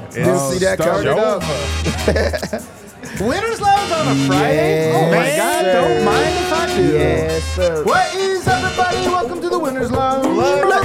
Didn't see that coming. Winners Lounge on a Friday? Oh my God, don't mind if I do. Yes, sir. What is everybody? Welcome to the Winners Lounge. Let's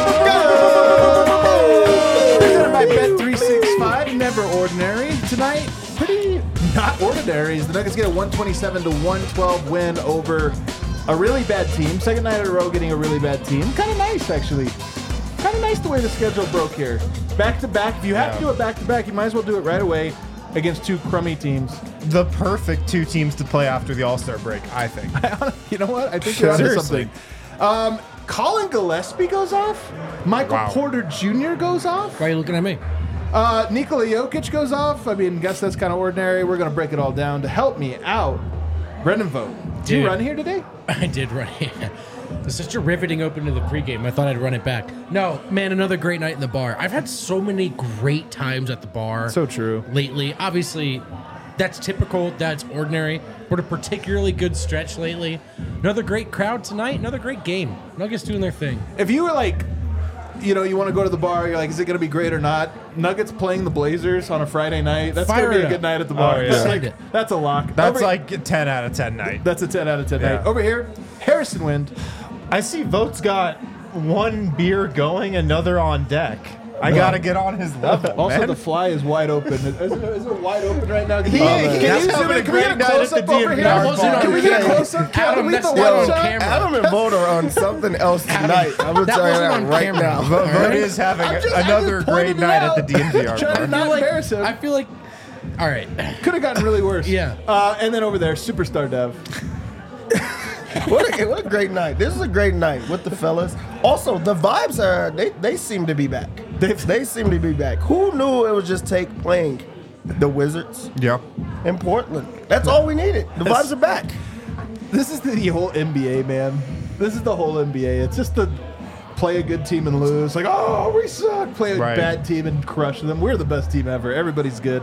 Presented by Bet365, never ordinary. Tonight, pretty not ordinary. The Nuggets get a 127-112 win over a really bad team. Second night in a row getting a really bad team. Kind of nice, actually. Kind of nice the way the schedule broke here. Back to back. If you have to do it back to back, you might as well do it right away against two crummy teams. The perfect two teams to play after the All-Star break, I think. You know what? I think you're onto Seriously. something. Colin Gillespie goes off. Michael Porter Jr. goes off. Why are you looking at me? Nikola Jokic goes off. I mean, guess that's kind of ordinary. We're going to break it all down. To help me out, Brendan Vogt. Did you run here today? I did run here. It's such a riveting open to the pregame. I thought I'd run it back. No, man, another great night in the bar. I've had so many great times at the bar. So true. Lately. Obviously, that's typical. That's ordinary. But a particularly good stretch lately. Another great crowd tonight. Another great game. Nuggets doing their thing. If you were like, you know, you want to go to the bar, you're like, is it going to be great or not? Nuggets playing the Blazers on a Friday night. That's going to be a good night at the bar. Oh, yeah. That's, like, that's a lock. That's like a 10 out of 10 night. That's a 10 out of 10 night. Over here, Harrison Wind. I see Vogt's got one beer going, another on deck. I got to get on his level, Also, man. the fly is wide open. Is it wide open right now? Can He- you he's zoom having in? a Can we get a great night at the close-up over DMV here? bar. Can we get a close-up? Can Adam, we get that's the not one on shot? camera. Adam and Vogt are on something else tonight. I'm going to That tell you wasn't that on right camera. now. Vogt is having I just another great pointed it night out. at the DMV Trying to bar. not embarrass him. I feel like... All right. Could have gotten really worse. Yeah. And then over there, Superstar Dev. What a great night. This is a great night with the fellas. Also, the vibes are, they seem to be back. They seem to be back. Who knew it would just take playing the Wizards Yeah. in Portland? That's all we needed. The vibes are back. This is the whole NBA, man. This is the whole NBA. It's just the play a good team and lose. Like, oh, we suck. Play a bad team and crush them. We're the best team ever. Everybody's good.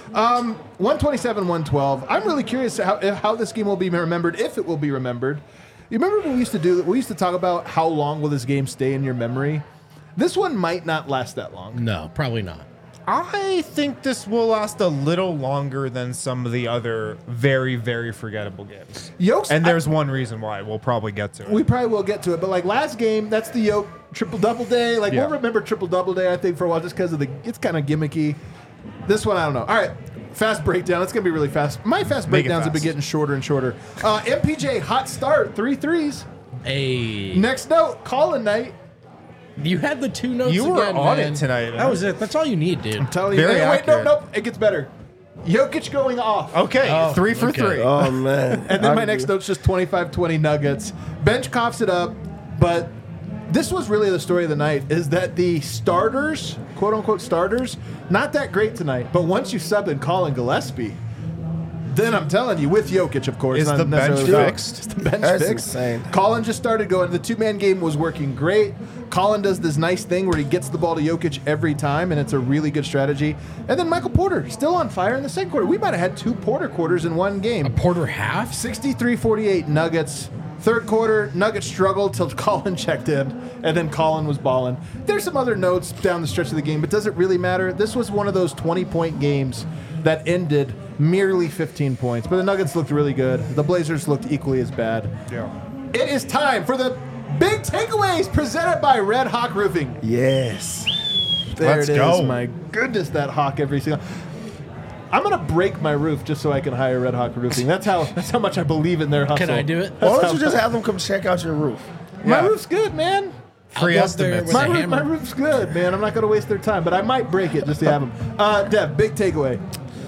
127-112. I'm really curious how this game will be remembered, if it will be remembered. You remember what we used to do? We used to talk about how long will this game stay in your memory. This one might not last that long. No, probably not. I think this will last a little longer than some of the other very, very forgettable games. And there's one reason why. We'll probably get to it. We probably will get to it, but like last game, that's the Yoke triple-double day. Like we'll remember triple-double day, I think, for a while, just because of it's kind of gimmicky. This one, I don't know. All right, fast breakdown. It's going to be really fast. My fast breakdowns have been getting shorter and shorter. MPJ, hot start, 3 threes. Hey. Next note, Colin night. You had the two notes You were again, on man. it tonight. That was it. That's all you need, dude. I'm telling you. Very Wait, accurate. nope. It gets better. Jokic going off. Okay, 3 for 3. Oh, man. And then my next note's just 25-20 Nuggets. Bench coughs it up, but this was really the story of the night, is that the starters, quote-unquote starters, not that great tonight. But once you sub in Colin Gillespie, then I'm telling you, with Jokic, of course. Is not the bench necessarily- fixed? Is the bench That's fixed? insane. Colin just started going. The two-man game was working great. Colin does this nice thing where he gets the ball to Jokic every time, and it's a really good strategy. And then Michael Porter, still on fire in the second quarter. We might have had 2 Porter quarters in one game. A Porter half? 63-48 Nuggets. Third quarter, Nuggets struggled till Colin checked in, and then Colin was balling. There's some other notes down the stretch of the game, but does it really matter? This was one of those 20-point games that ended merely 15 points, but the Nuggets looked really good. The Blazers looked equally as bad. Yeah. It is time for the big takeaways presented by Red Hawk Roofing. Yes. There Let's it is. go. My goodness, that hawk every single. I'm gonna break my roof just so I can hire Red Hawk Roofing. That's how much I believe in their hustle. Can I do it? Why don't you just have them come check out your roof? My Yeah. roof's good, man. Free I'll go there estimates. with a My hammer. roof's good, man. I'm not gonna waste their time, but I might break it just to have them. Dev, big takeaway.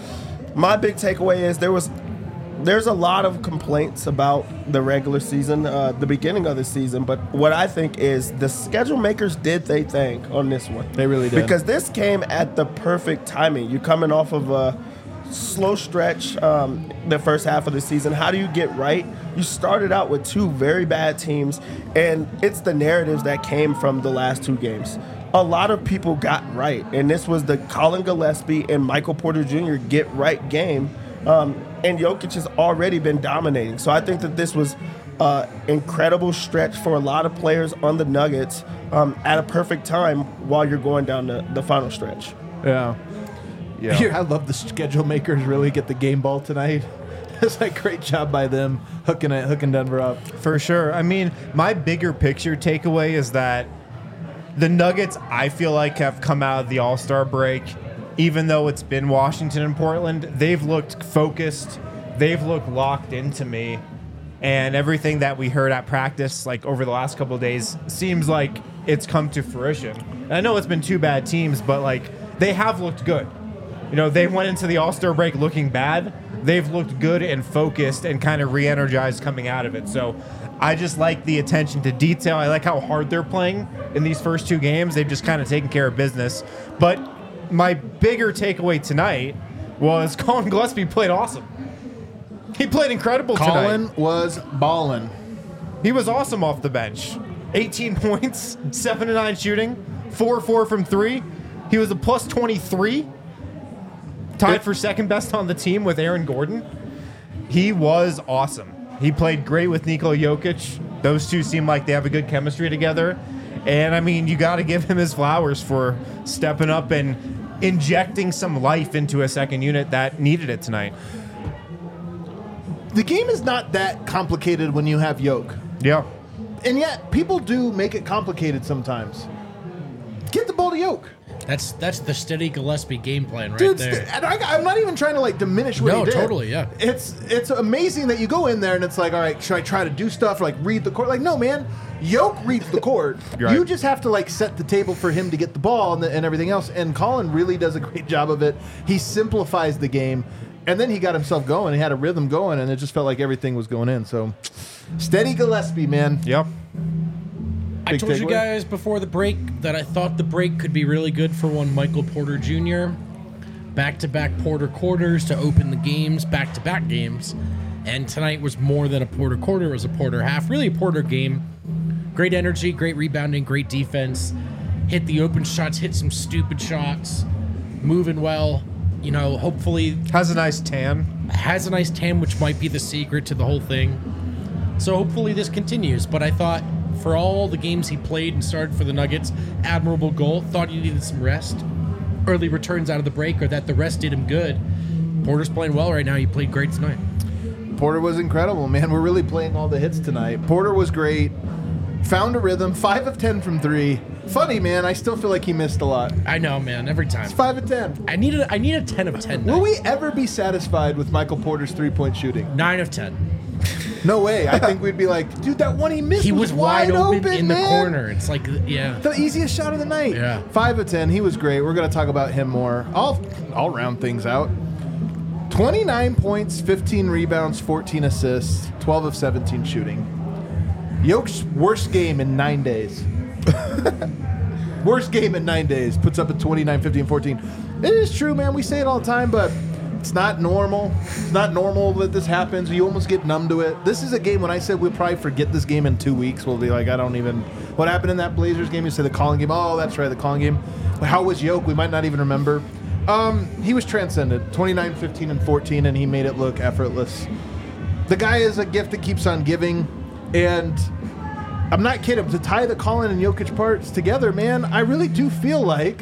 My big takeaway is there's a lot of complaints about the regular season, the beginning of the season, but what I think is the schedule makers did their thing on this one. They really did. Because this came at the perfect timing. You're coming off of a slow stretch the first half of the season. How do you get right? You started out with 2 very bad teams, and it's the narratives that came from the last 2 games. A lot of people got right, and this was the Colin Gillespie and Michael Porter Jr. get right game. And Jokic has already been dominating. So I think that this was an incredible stretch for a lot of players on the Nuggets at a perfect time while you're going down the final stretch. Yeah. Yeah. I love the schedule makers really get the game ball tonight. It's like great job by them hooking Denver up. For sure. I mean, my bigger picture takeaway is that the Nuggets, I feel like, have come out of the All-Star break, even though it's been Washington and Portland, they've looked focused. They've looked locked into me. And everything that we heard at practice, like over the last couple of days, seems like it's come to fruition. And I know it's been 2 bad teams, but like they have looked good. You know, they went into the All-Star break looking bad. They've looked good and focused and kind of re-energized coming out of it. So I just like the attention to detail. I like how hard they're playing in these first 2 games. They've just kind of taken care of business. But my bigger takeaway tonight was Colin Gillespie played awesome. He played incredible tonight. Colin was ballin'. He was awesome off the bench. 18 points, 7-9 shooting, 4-4 from 3. He was a plus 23, tied for second best on the team with Aaron Gordon. He was awesome. He played great with Nikola Jokic. Those two seem like they have a good chemistry together. And, I mean, you got to give him his flowers for stepping up and injecting some life into a second unit that needed it tonight. The game is not that complicated when you have Yoke. Yeah. And yet, people do make it complicated sometimes. Get the ball to Yoke. That's the steady Gillespie game plan right Dude, there. and I'm not even trying to like diminish what he did. No, totally, yeah. It's amazing that you go in there and it's like, all right, should I try to do stuff or like read the court? Like, no, man. Yoke reads the court. Right. You just have to like set the table for him to get the ball and everything else. And Colin really does a great job of it. He simplifies the game. And then he got himself going. He had a rhythm going, and it just felt like everything was going in. So, steady Gillespie, man. Yep. I told you guys before the break that I thought the break could be really good for one Michael Porter Jr. Back-to-back Porter quarters to open the games, back-to-back games. And tonight was more than a Porter quarter. It was a Porter half. Really a Porter game. Great energy, great rebounding, great defense. Hit the open shots, hit some stupid shots. Moving well. You know, hopefully... Has a nice tan. Has a nice tan, which might be the secret to the whole thing. So hopefully this continues. But I thought for all the games he played and started for the Nuggets, admirable goal. Thought he needed some rest. Early returns out of the break, or that the rest did him good. Porter's playing well right now. He played great tonight. Porter was incredible, man. We're really playing all the hits tonight. Porter was great. Found a rhythm. 5 of 10 from 3. Funny, man. I still feel like he missed a lot. I know, man. Every time. It's 5 of 10. I need a 10 of 10 night. Will we ever be satisfied with Michael Porter's 3-point shooting? 9 of 10. No way. I think we'd be like, dude, that one he missed He was wide open in man. the corner. It's like, yeah. The easiest shot of the night. Yeah. 5 of 10. He was great. We're going to talk about him more. I'll round things out. 29 points, 15 rebounds, 14 assists, 12 of 17 shooting. Yoke's worst game in 9 days. Worst game in 9 days. Puts up a 29, 15, 14. It is true, man. We say it all the time, but it's not normal. It's not normal that this happens. You almost get numb to it. This is a game when I said we'll probably forget this game in 2 weeks. We'll be like, I don't even... What happened in that Blazers game? You said the Colin game. Oh, that's right, the Colin game. How was Yoke? We might not even remember. He was transcendent. 29, 15, and 14, and he made it look effortless. The guy is a gift that keeps on giving, and I'm not kidding. To tie the Colin and Jokic parts together, man, I really do feel like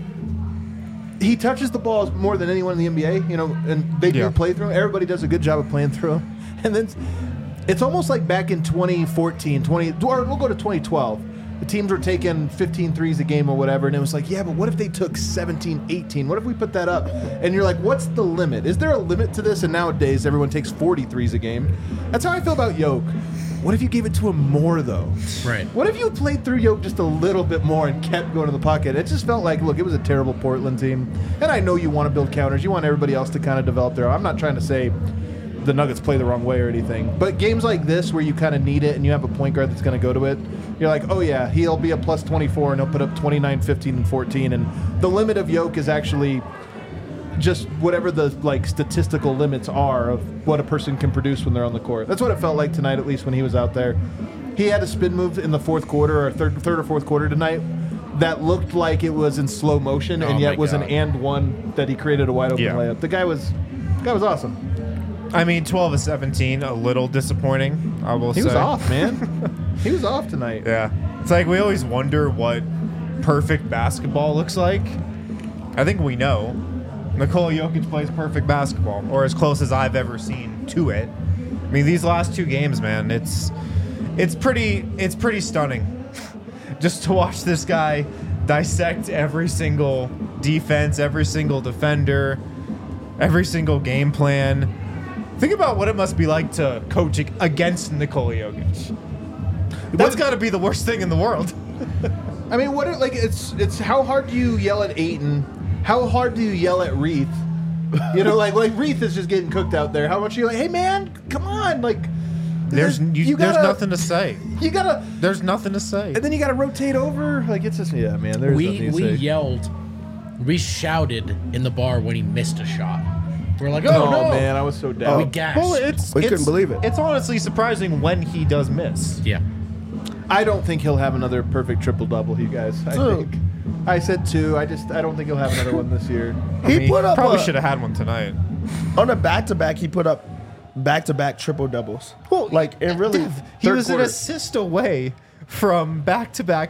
he touches the ball more than anyone in the NBA, you know, and they do play through him. Everybody does a good job of playing through him. And then it's almost like back in 2014, or we'll go to 2012. The teams were taking 15 threes a game or whatever, and it was like, yeah, but what if they took 17, 18? What if we put that up? And you're like, what's the limit? Is there a limit to this? And nowadays, everyone takes 40 threes a game. That's how I feel about Yoke. What if you gave it to him more, though? Right. What if you played through Yoke just a little bit more and kept going to the pocket? It just felt like, look, it was a terrible Portland team. And I know you want to build counters. You want everybody else to kind of develop their own. I'm not trying to say the Nuggets play the wrong way or anything. But games like this where you kind of need it and you have a point guard that's going to go to it, you're like, oh, yeah, he'll be a plus 24 and he'll put up 29, 15, and 14. And the limit of Yoke is actually just whatever the like statistical limits are of what a person can produce when they're on the court. That's what it felt like tonight, at least when he was out there. He had a spin move in the fourth quarter or third or fourth quarter tonight that looked like it was in slow motion and yet was an and one that he created a wide open layup. The guy was awesome. I mean, 12 of 17, a little disappointing, I will say. He was off, man. He was off tonight. Yeah. It's like we always wonder what perfect basketball looks like. I think we know. Nikola Jokic plays perfect basketball, or as close as I've ever seen to it. I mean, these last 2 games, man, it's pretty stunning just to watch this guy dissect every single defense, every single defender, every single game plan. Think about what it must be like to coach against Nikola Jokic. That's got to be the worst thing in the world. I mean, it's how hard do you yell at Ayton? How hard do you yell at Reith? You know, like Reith is just getting cooked out there. How much are you like, hey man, come on, like there's nothing to say. There's nothing to say. And then you gotta rotate over. Like it's just man. There's nothing to we say. yelled, we shouted in the bar when he missed a shot. We're like, oh no, man, I was so down. We gasped. Well, We couldn't believe it. It's honestly surprising when he does miss. Yeah. I don't think he'll have another perfect triple-double, you guys. I said 2. I don't think he'll have another one this year. He put up probably should have had one tonight. on a back-to-back. He put up back-to-back triple doubles. Well, like and really, he third was quarter. an assist away from back-to-back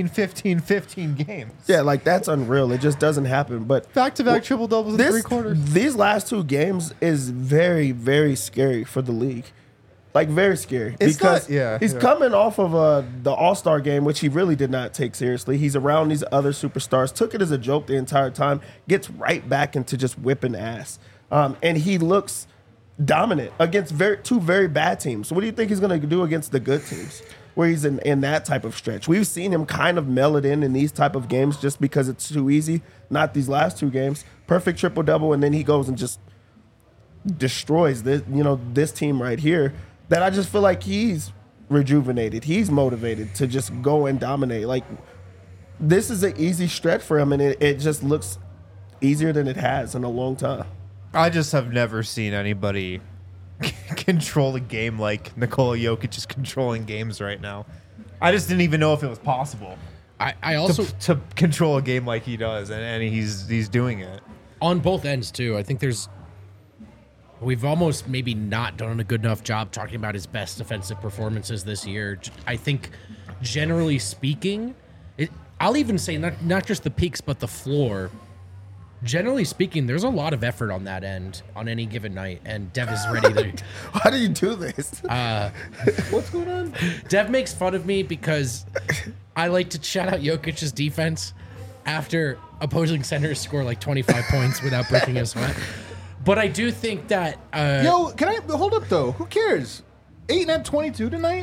15 games. Yeah, like that's unreal. It just doesn't happen. But Back-to-back triple doubles in 3 quarters. These last 2 games is very, very scary for the league. Like very scary because he's coming off of the All-Star game, which he really did not take seriously. He's around these other superstars, took it as a joke the entire time, gets right back into just whipping ass, and he looks dominant against 2 very bad teams. So what do you think he's going to do against the good teams, where he's in that type of stretch? We've seen him kind of meld it in these type of games just because it's too easy. Not these last 2 games, perfect triple double, and then he goes and just destroys this team right here. That I just feel like he's rejuvenated. He's motivated to just go and dominate. Like, this is an easy stretch for him, and it just looks easier than it has in a long time. I just have never seen anybody control a game like Nikola Jokic is controlling games right now. I just didn't even know if it was possible. I also to control a game like he does, and he's doing it on both ends too. I think we've almost maybe not done a good enough job talking about his best defensive performances this year. I think, generally speaking, I'll even say not just the peaks, but the floor. Generally speaking, there's a lot of effort on that end on any given night, and Dev is ready to... Why do you do this? What's going on? Dev makes fun of me because I like to shout out Jokic's defense after opposing centers score like 25 points without breaking a sweat. But I do think that... Yo, can I... Hold up, though. Who cares? Ayton had 22 tonight?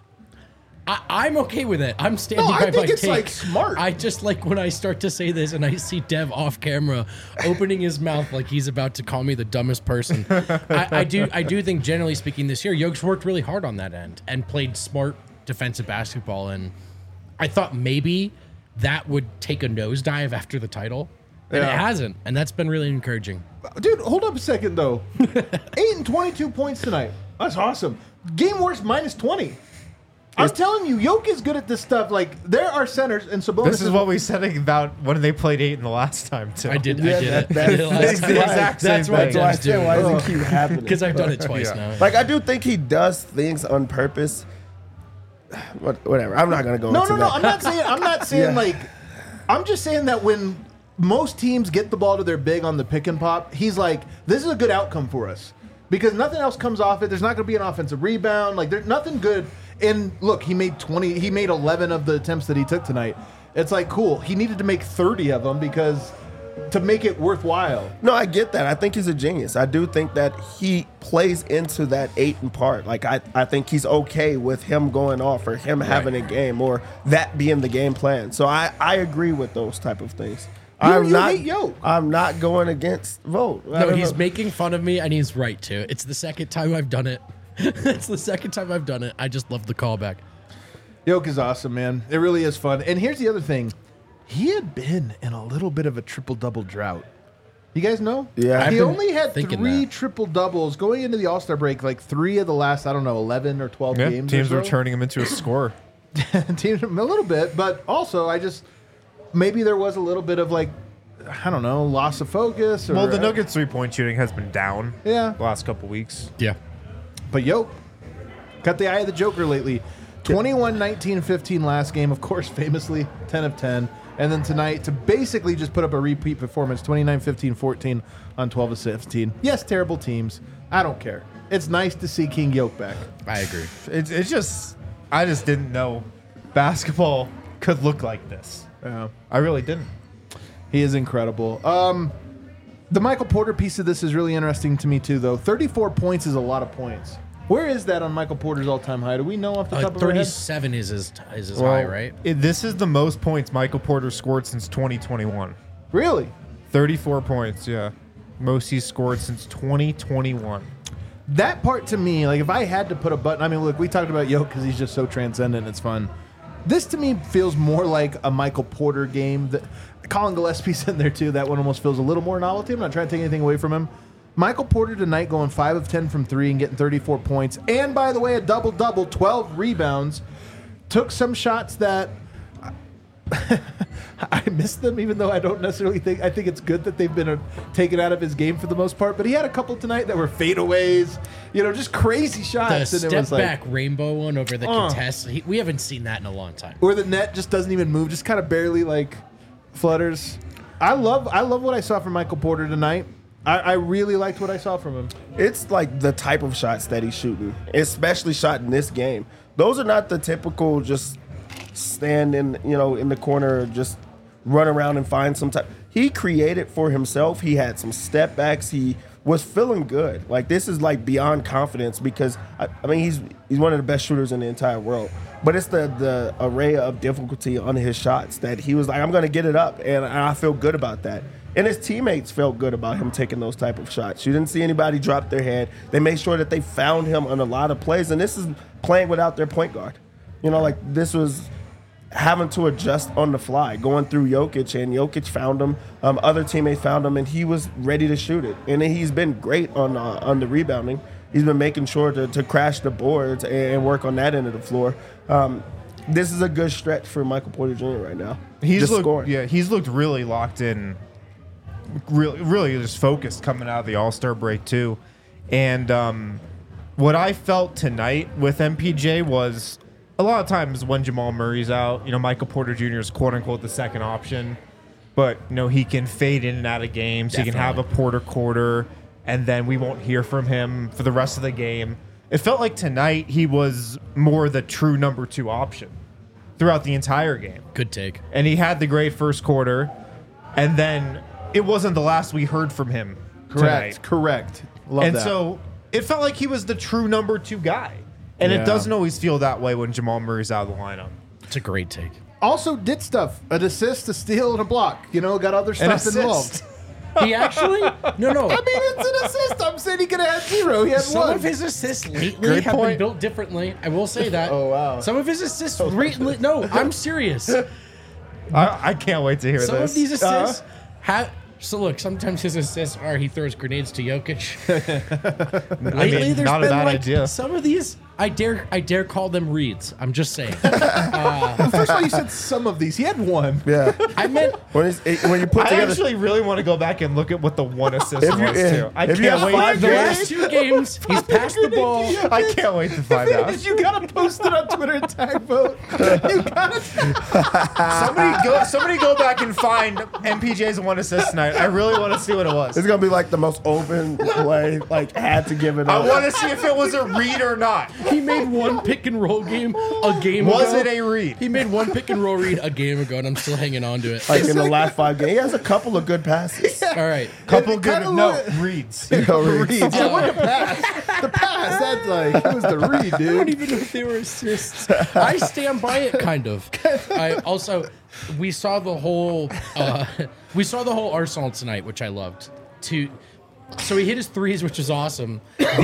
I'm okay with it. I'm standing by my take. I think it's, like, smart. I just like when I start to say this and I see Dev off camera opening his mouth like he's about to call me the dumbest person. I do think, generally speaking, this year, Jokic's worked really hard on that end and played smart defensive basketball. And I thought maybe that would take a nosedive after the title. And it hasn't. And that's been really encouraging. Dude, hold up a second, though. 8 and 22 points tonight. That's awesome. Game worst minus 20. I'm telling you, Jokic is good at this stuff. Like, there are centers, and Sabonis... This is what we said about when they played Ayton the last time, too. I did it. That's why does it keep happening? Because I've done it twice now. Like, I do think he does things on purpose. Whatever. I'm not going to go into that. No. I'm not saying like... I'm just saying that when most teams get the ball to their big on the pick and pop, he's like, this is a good outcome for us. Because nothing else comes off it. There's not going to be an offensive rebound. Like, there's nothing good... And look, he made 11 of the attempts that he took tonight. It's like, cool. He needed to make 30 of them because to make it worthwhile. No, I get that. I think he's a genius. I do think that he plays into that Ayton part. Like, I think he's okay with him going off or him having a game or that being the game plan. So I agree with those type of things. I'm not going against Vogt. No, he's making fun of me, and he's right, too. It's the second time I've done it. It's the second time I've done it. I just love the callback. Jokic is awesome, man. It really is fun. And here's the other thing. He had been in a little bit of a triple-double drought. You guys know? Yeah. He only had 3 triple-doubles going into the All-Star break, like 3 of the last, 11 or 12 games. Teams were turning him into a scorer. Teams a little bit, but also maybe there was a little bit of loss of focus. Well, the Nuggets 3-point shooting has been down the last couple weeks. Yeah. But cut the eye of the Joker lately. 21, 19, 15 last game. Of course, famously, 10 of 10. And then tonight to basically just put up a repeat performance, 29, 15, 14 on 12 of 15. Yes, terrible teams. I don't care. It's nice to see King Yoke back. I agree. It's just, I just didn't know basketball could look like this. Yeah. I really didn't. He is incredible. The Michael Porter piece of this is really interesting to me too, though. 34 points is a lot of points. Where is that on Michael Porter's all-time high? Do we know off the top of our head? 37 is his high, right? This is the most points Michael Porter scored since 2021. Really? 34 points, yeah. Most he's scored since 2021. That part to me, like if I had to put a button, I mean, look, we talked about Yoke because he's just so transcendent. It's fun. This to me feels more like a Michael Porter game. Colin Gillespie's in there too. That one almost feels a little more novelty. I'm not trying to take anything away from him. Michael Porter tonight going 5 of 10 from 3 and getting 34 points. And by the way, a double-double, 12 rebounds. Took some shots that I missed them, even though I don't necessarily think. I think it's good that they've been taken out of his game for the most part. But he had a couple tonight that were fadeaways, just crazy shots. The step back rainbow one over the contest. We haven't seen that in a long time. Or the net just doesn't even move, just kind of barely like flutters. I love what I saw from Michael Porter tonight. I really liked what I saw from him. It's like the type of shots that he's shooting, especially shot in this game. Those are not the typical just stand in the corner, just run around and find some type. He created for himself. He had some step backs. He was feeling good. Like this is like beyond confidence because I mean he's one of the best shooters in the entire world. But it's the array of difficulty on his shots that he was like, I'm going to get it up, and I feel good about that. And his teammates felt good about him taking those type of shots. You didn't see anybody drop their head. They made sure that they found him on a lot of plays, and this is playing without their point guard. This was having to adjust on the fly, going through Jokic, and Jokic found him. Other teammates found him, and he was ready to shoot it. And he's been great on the rebounding. He's been making sure to crash the boards and work on that end of the floor. This is a good stretch for Michael Porter Jr. right now. He's looked really locked in. Really just focused coming out of the All-Star break too. And what I felt tonight with MPJ was a lot of times when Jamal Murray's out, Michael Porter Jr. is quote-unquote the second option. But, he can fade in and out of games. Definitely. He can have a Porter quarter, and then we won't hear from him for the rest of the game. It felt like tonight he was more the true number 2 option throughout the entire game. Good take. And he had the great first quarter, and then it wasn't the last we heard from him tonight. Correct. Love and that. So it felt like he was the true number 2 guy. And it doesn't always feel that way when Jamal Murray's out of the lineup. It's a great take. Also did stuff. An assist, a steal, and a block. Got other stuff involved. He actually? No. I mean, it's an assist. I'm saying he could have had 0. He had 1. Some of his assists lately have been built differently. I will say that. Oh, wow. Some of his assists lately. No, I'm serious. I can't wait to hear Some this. of these assists have. So look, sometimes his assists are he throws grenades to Jokic. Lately, there's not a been bad idea. Some of these, I dare call them reads. I'm just saying. First of all, you said some of these. He had 1. Yeah. I meant when you put I together, actually really want to go back and look at what the one assist was too. I if you can't have wait. 5 the games, last 2 games he's passed the ball. I can't wait to find out. You gotta post it on Twitter and tag vote. You gotta. Somebody go back and find MPJ's one assist tonight. I really want to see what it was. it's gonna be like the most open play. Like had to give it up. I want to see if it was a read or not. He made one pick and roll game a game ago. Was it a read? He made one pick and roll read a game ago, and I'm still hanging on to it. Like in the last 5 games, he has a couple of good passes. All right. Couple It good kinda reads. Reads. Yeah, what the pass? The pass. That's like it was the read, I don't dude. even know if they were assists. I stand by it, kind of. We saw the whole Arsenal tonight, which I loved. So he hit his threes, which is awesome.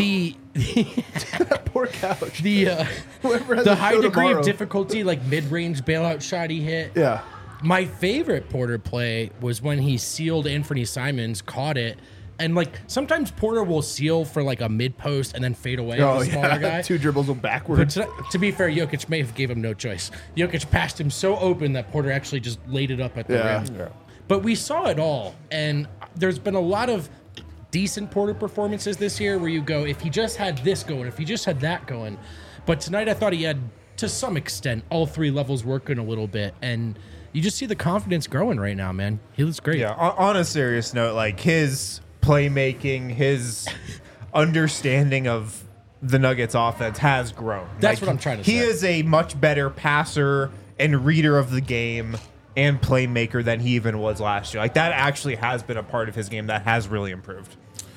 Poor couch. The Whoever has the a high show degree tomorrow. of difficulty, like mid-range bailout shot he hit. Yeah. My favorite Porter play was when he sealed Anthony Simons, caught it, and like sometimes Porter will seal for like a mid post and then fade away on the smaller guy. 2 dribbles But backwards. to be fair, Jokic may have gave him no choice. Jokic passed him so open that Porter actually just laid it up at the rim. Yeah. But we saw it all, and there's been a lot of decent Porter performances this year where you go, if he just had this going, if he just had that going. But tonight I thought he had, to some extent, all 3 levels working a little bit, and you just see the confidence growing right now, man. He looks great. Yeah. On a serious note, like his playmaking, his understanding of the Nuggets offense has grown. That's Like, what I'm trying to say. He is a much better passer and reader of the game and playmaker than he even was last year. Like that actually has been a part of his game that has really improved.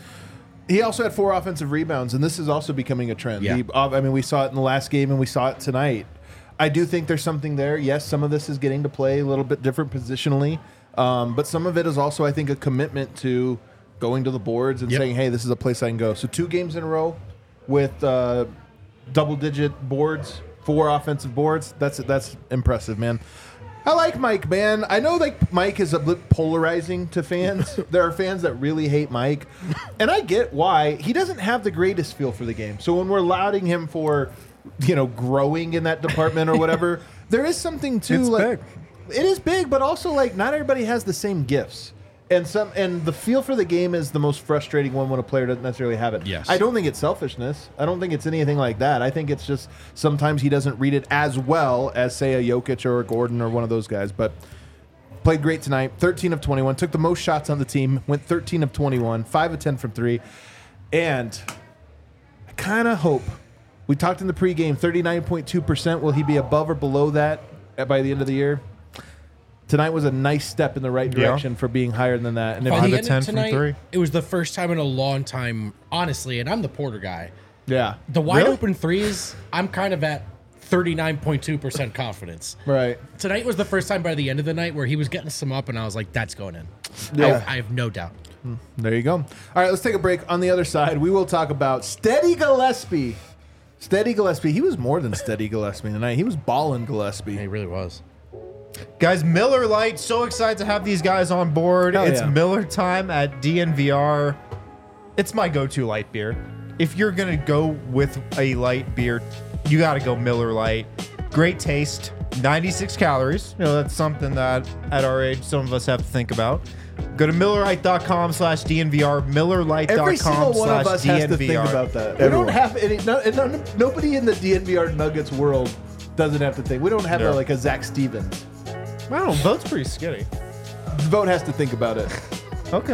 He also had 4 offensive rebounds, and this is also becoming a trend. Yeah. We saw it in the last game, and we saw it tonight. I do think there's something there. Yes, some of this is getting to play a little bit different positionally, but some of it is also, I think, a commitment to going to the boards and saying, hey, this is a place I can go. So 2 games in a row with double-digit boards, 4 offensive boards. That's impressive, man. I like Mike, man. I know like Mike is a bit polarizing to fans. There are fans that really hate Mike, and I get why. He doesn't have the greatest feel for the game. So when we're lauding him for, growing in that department or whatever, there is something to It's like. big. It is big, but also like not everybody has the same gifts. And the feel for the game is the most frustrating one when a player doesn't necessarily have it. Yes. I don't think it's selfishness. I don't think it's anything like that. I think it's just sometimes he doesn't read it as well as, say, a Jokic or a Gordon or one of those guys. But played great tonight. 13 of 21. Took the most shots on the team. Went 13 of 21. 5 of 10 from 3. And I kind of hope. We talked in the pregame, 39.2%. Will he be above or below that by the end of the year? Tonight was a nice step in the right direction for being higher than that. And if By Five the of end 10 of from tonight, 3. it was the first time in a long time, honestly, and I'm the Porter guy. yeah, The wide Really? open threes, I'm kind of at 39.2% confidence. right. Tonight was the first time by the end of the night where he was getting some up, and I was like, that's going in. Yeah. I have no doubt. There you go. All right, let's take a break. On the other side, we will talk about Steady Gillespie. Steady Gillespie. He was more than Steady Gillespie tonight. He was balling Gillespie. He really was. Guys, Miller Lite, so excited to have these guys on board. Hell It's yeah. Miller time at DNVR. It's my go-to light beer. If you're going to go with a light beer, you got to go Miller Lite. Great taste, 96 calories. That's something that at our age, some of us have to think about. Go to MillerLite.com/DNVR, MillerLite.com/DNVR. Every single one of us has to think about that. We don't have any. Nobody in the DNVR Nuggets world doesn't have to think. We don't have No. like a Zach Stevens. Wow, Vote's pretty skinny. Vote has to think about it. Okay.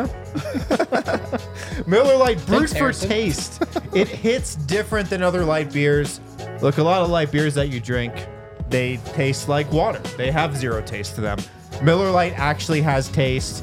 Miller Lite brewed Thanks, for Harrison. taste. It hits different than other light beers. Look, a lot of light beers that you drink, they taste like water. They have zero taste to them. Miller Lite actually has taste.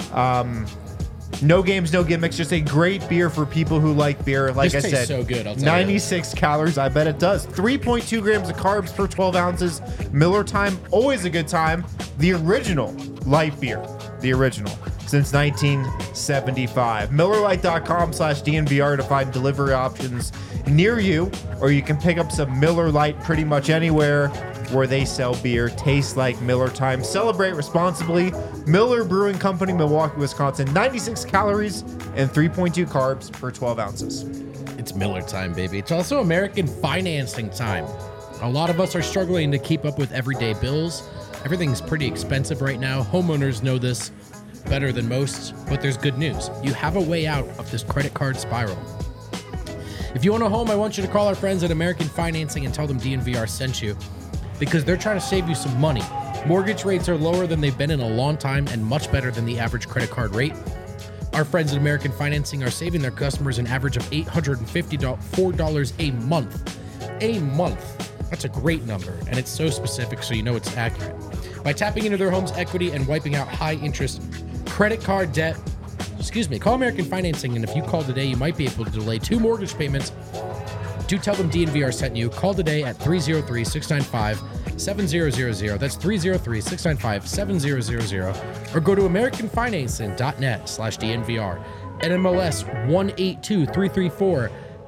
No games, no gimmicks. Just a great beer for people who like beer. Like This I tastes said, so good, I'll tell you. 96 calories. I bet it does. 3.2 grams of carbs per 12 ounces. Miller Time, always a good time. The original light beer. The original. Since 1975. MillerLite.com/DNVR to find delivery options near you, or you can pick up some Miller Lite pretty much anywhere where they sell beer. Tastes like Miller Time. Celebrate responsibly. Miller Brewing Company, Milwaukee, Wisconsin. 96 calories and 3.2 carbs per 12 ounces. It's Miller time, baby. It's also American financing time. A lot of us are struggling to keep up with everyday bills. Everything's pretty expensive right now. Homeowners know this better than most, but there's good news. You have a way out of this credit card spiral. If you own a home, I want you to call our friends at American Financing and tell them DNVR sent you, because they're trying to save you some money. Mortgage rates are lower than they've been in a long time and much better than the average credit card rate. Our friends at American Financing are saving their customers an average of $854 a month. A month. That's a great number, and it's so specific so you know it's accurate. By tapping into their home's equity and wiping out high interest credit card debt, call American Financing, and if you call today, you might be able to delay 2 mortgage payments. Do tell them DNVR sent you. Call today at 303-695-7000. That's 303-695-7000. Or go to AmericanFinancing.net/DNVR. NMLS 182334.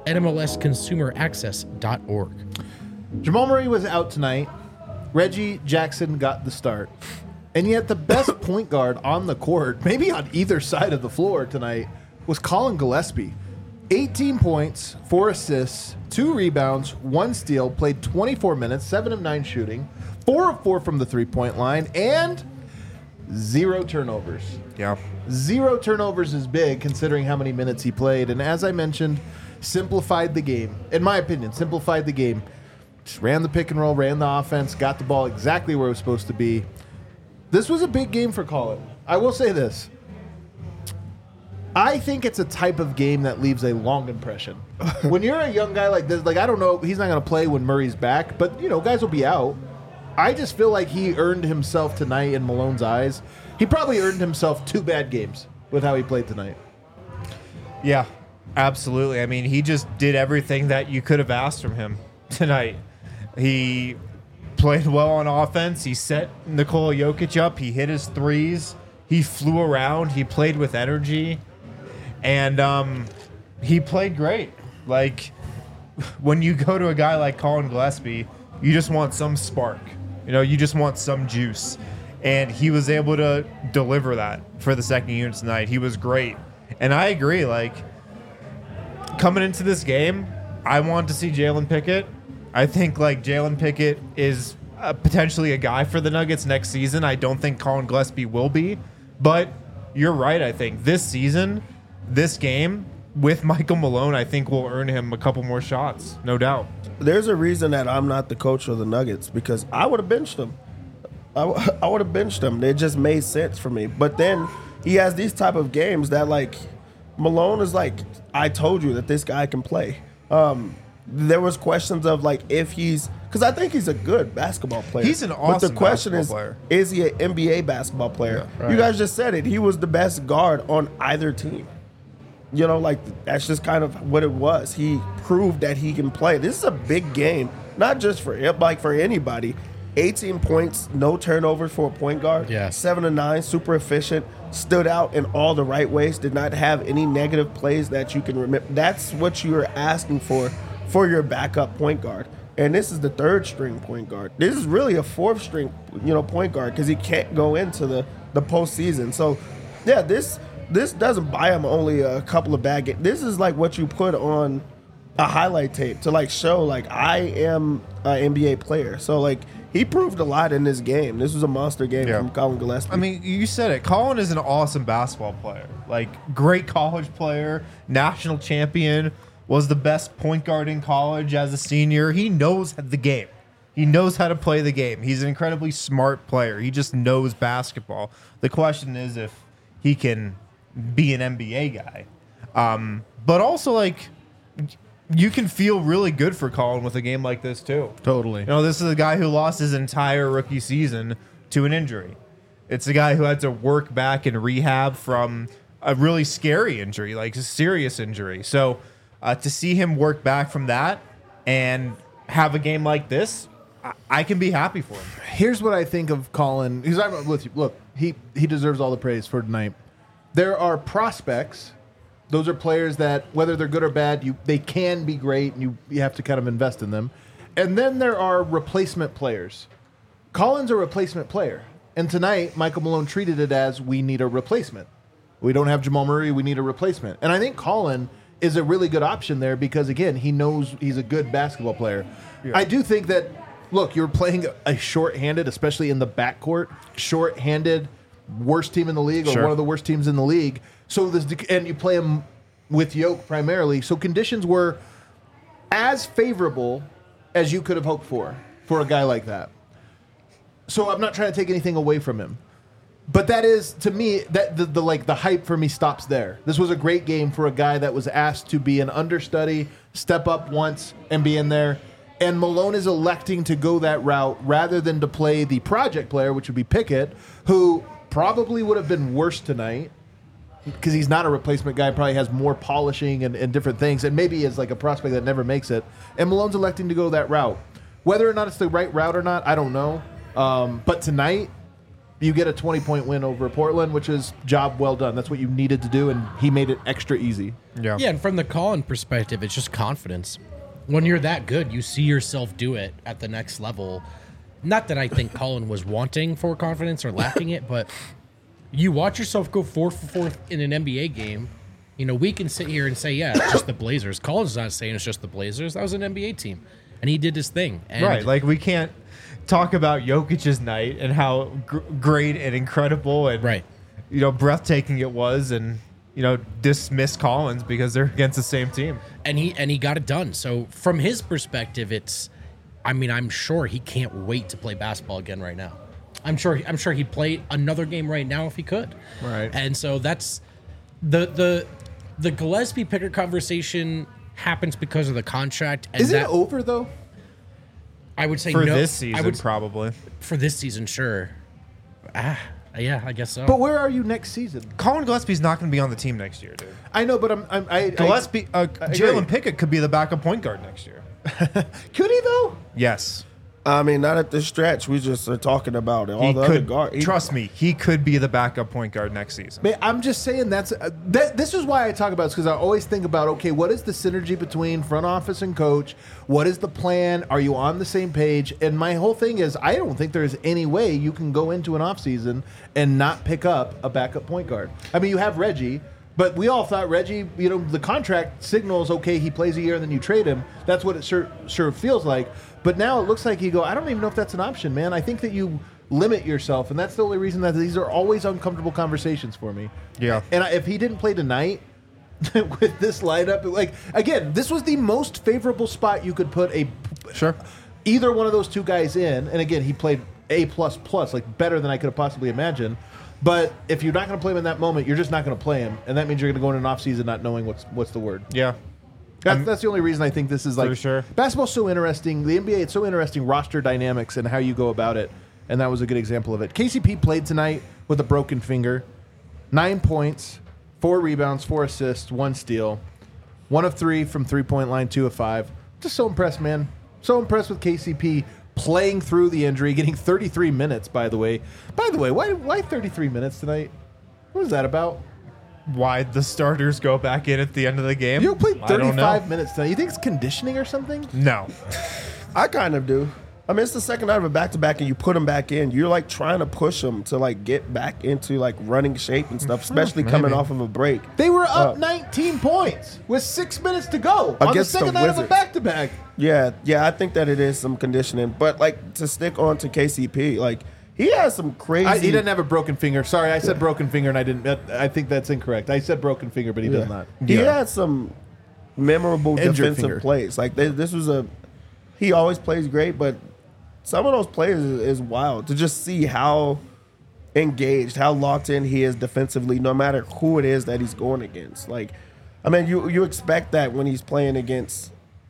NMLSConsumerAccess.org. Jamal Murray was out tonight. Reggie Jackson got the start. And yet the best point guard on the court, maybe on either side of the floor tonight, was Colin Gillespie. 18 points, 4 assists, 2 rebounds, 1 steal, played 24 minutes, 7 of 9 shooting, 4 of 4 from the three-point line, and 0 turnovers. Yeah. 0 turnovers is big considering how many minutes he played. And as I mentioned, simplified the game. In my opinion, simplified the game. Just ran the pick and roll, ran the offense, got the ball exactly where it was supposed to be. This was a big game for Colin. I will say this. I think it's a type of game that leaves a long impression. When you're a young guy like this, like, I don't know, he's not going to play when Murray's back, but, you know, guys will be out. I just feel like he earned himself tonight in Malone's eyes. He probably earned himself 2 bad games with how he played tonight. Yeah, absolutely. I mean, he just did everything that you could have asked from him tonight. He played well on offense. He set Nikola Jokic up. He hit his threes. He flew around. He played with energy. And he played great. Like, when you go to a guy like Colin Gillespie, you just want some spark. You know, you just want some juice. And he was able to deliver that for the second unit tonight. He was great. And I agree, like, coming into this game, I want to see Jalen Pickett. I think, like, Jalen Pickett is potentially a guy for the Nuggets next season. I don't think Colin Gillespie will be. But you're right, I think. This season, this game, with Michael Malone, I think will earn him a couple more shots, no doubt. There's a reason that I'm not the coach of the Nuggets, because I would have benched him. I would have benched him. It just made sense for me. But then he has these type of games that, like, Malone is like, I told you that this guy can play. There was questions of, like, if he's, because I think he's a good basketball player. He's an awesome But the question player. Is he an NBA basketball player? Yeah, right. You guys just said it. He was the best guard on either team. You know, like, that's just kind of what it was. He proved that he can play. This is a big game, not just for him, like for anybody. 18 points, no turnover for a point guard. Yeah. 7 of 9, super efficient, stood out in all the right ways, did not have any negative plays that you can remember. That's what you're asking for your backup point guard. And this is the 3rd string point guard. This is really a 4th string, point guard, because he can't go into the postseason. So, yeah, this doesn't buy him only a couple of bad games. This is like what you put on a highlight tape to, like, show, like, I am an NBA player. So, like, he proved a lot in this game. This was a monster game from Colin Gillespie. I mean, you said it. Colin is an awesome basketball player. Like, great college player, national champion, was the best point guard in college as a senior. He knows the game. He knows how to play the game. He's an incredibly smart player. He just knows basketball. The question is if he can be an NBA guy. But also, like, you can feel really good for Colin with a game like this, too. Totally. You know, this is a guy who lost his entire rookie season to an injury. It's a guy who had to work back and rehab from a really scary injury, like a serious injury. So to see him work back from that and have a game like this, I can be happy for him. Here's what I think of Colin. Look, he deserves all the praise for tonight. There are prospects. Those are players that, whether they're good or bad, they can be great, and you have to kind of invest in them. And then there are replacement players. Colin's a replacement player. And tonight, Michael Malone treated it as, we need a replacement. We don't have Jamal Murray, we need a replacement. And I think Colin is a really good option there because, again, he knows he's a good basketball player. Yeah. I do think that, look, you're playing a shorthanded, especially in the backcourt, shorthanded, worst team in the league, or one of the worst teams in the league. So and you play him with Yoke primarily. So conditions were as favorable as you could have hoped for a guy like that. So I'm not trying to take anything away from him. But that is, to me, that the hype for me stops there. This was a great game for a guy that was asked to be an understudy, step up once, and be in there. And Malone is electing to go that route rather than to play the project player, which would be Pickett, who probably would have been worse tonight because he's not a replacement guy, probably has more polishing and different things, and maybe is like a prospect that never makes it. And Malone's electing to go that route. Whether or not it's the right route or not, I don't know. But tonight, you get a 20-point win over Portland, which is job well done. That's what you needed to do, and he made it extra easy. Yeah, and from the Colin perspective, it's just confidence. When you're that good, you see yourself do it at the next level. Not that I think Colin was wanting for confidence or lacking it, but you watch yourself go 4 for 4 in an NBA game. You know, we can sit here and say, yeah, it's just the Blazers. Colin's not saying it's just the Blazers. That was an NBA team, and he did his thing. And right, like we can't talk about Jokic's night and how great and incredible and breathtaking it was, and dismiss Collins because they're against the same team. And he got it done. So from his perspective, I'm sure he can't wait to play basketball again right now. I'm sure he'd play another game right now if he could. Right. And so that's the Gillespie Pickett conversation happens because of the contract. And Is it over though? I would say For no. this season, probably. For this season, sure. Yeah, I guess so. But where are you next season? Colin Gillespie's not going to be on the team next year, dude. I know, but Gillespie, Jalen Pickett could be the backup point guard next year. Could he though? Yes. I mean, not at this stretch. We just are talking about it. All He the other could, guard. trust me, he could be the backup point guard next season. Man, I'm just saying this is why I talk about this, because I always think about, okay, what is the synergy between front office and coach? What is the plan? Are you on the same page? And my whole thing is, I don't think there's any way you can go into an offseason and not pick up a backup point guard. I mean, you have Reggie, but we all thought Reggie, the contract signals, okay, he plays a year and then you trade him. That's what it sure feels like. But now it looks like I don't even know if that's an option, man. I think that you limit yourself, and that's the only reason that these are always uncomfortable conversations for me. Yeah. And if he didn't play tonight with this lineup, again, this was the most favorable spot you could put either one of those two guys in. And again, he played A++, like better than I could have possibly imagined. But if you're not going to play him in that moment, you're just not going to play him, and that means you're going to go into an offseason not knowing what's the word. Yeah. That's the only reason I think this is like... For sure. Basketball's so interesting. The NBA, it's so interesting, roster dynamics and how you go about it. And that was a good example of it. KCP played tonight with a broken finger. 9 points, 4 rebounds, 4 assists, 1 steal. 1 of 3 from three-point line, 2 of 5. Just so impressed, man. So impressed with KCP playing through the injury, getting 33 minutes, by the way. By the way, why 33 minutes tonight? What was that about? Why the starters go back in at the end of the game? You played I don't 35 know. minutes tonight. You think it's conditioning or something? No. I kind of do. I mean, it's the second night of a back-to-back, and you put them back in. You're like trying to push them to like get back into like running shape and stuff, especially coming off of a break. They were up 19 points with 6 minutes to go on the Against the second night of a Wizards. back-to-back. Yeah, I think that it is some conditioning, but like to stick on to KCP, like he has some crazy. He didn't have a broken finger. Sorry, I said broken finger, and I didn't. I think that's incorrect. I said broken finger, but he does not. He had some memorable Injured defensive finger. plays. Like this was he always plays great, but some of those plays is wild to just see how engaged, how locked in he is defensively, no matter who it is that he's going against. Like, I mean, you expect that when he's playing against,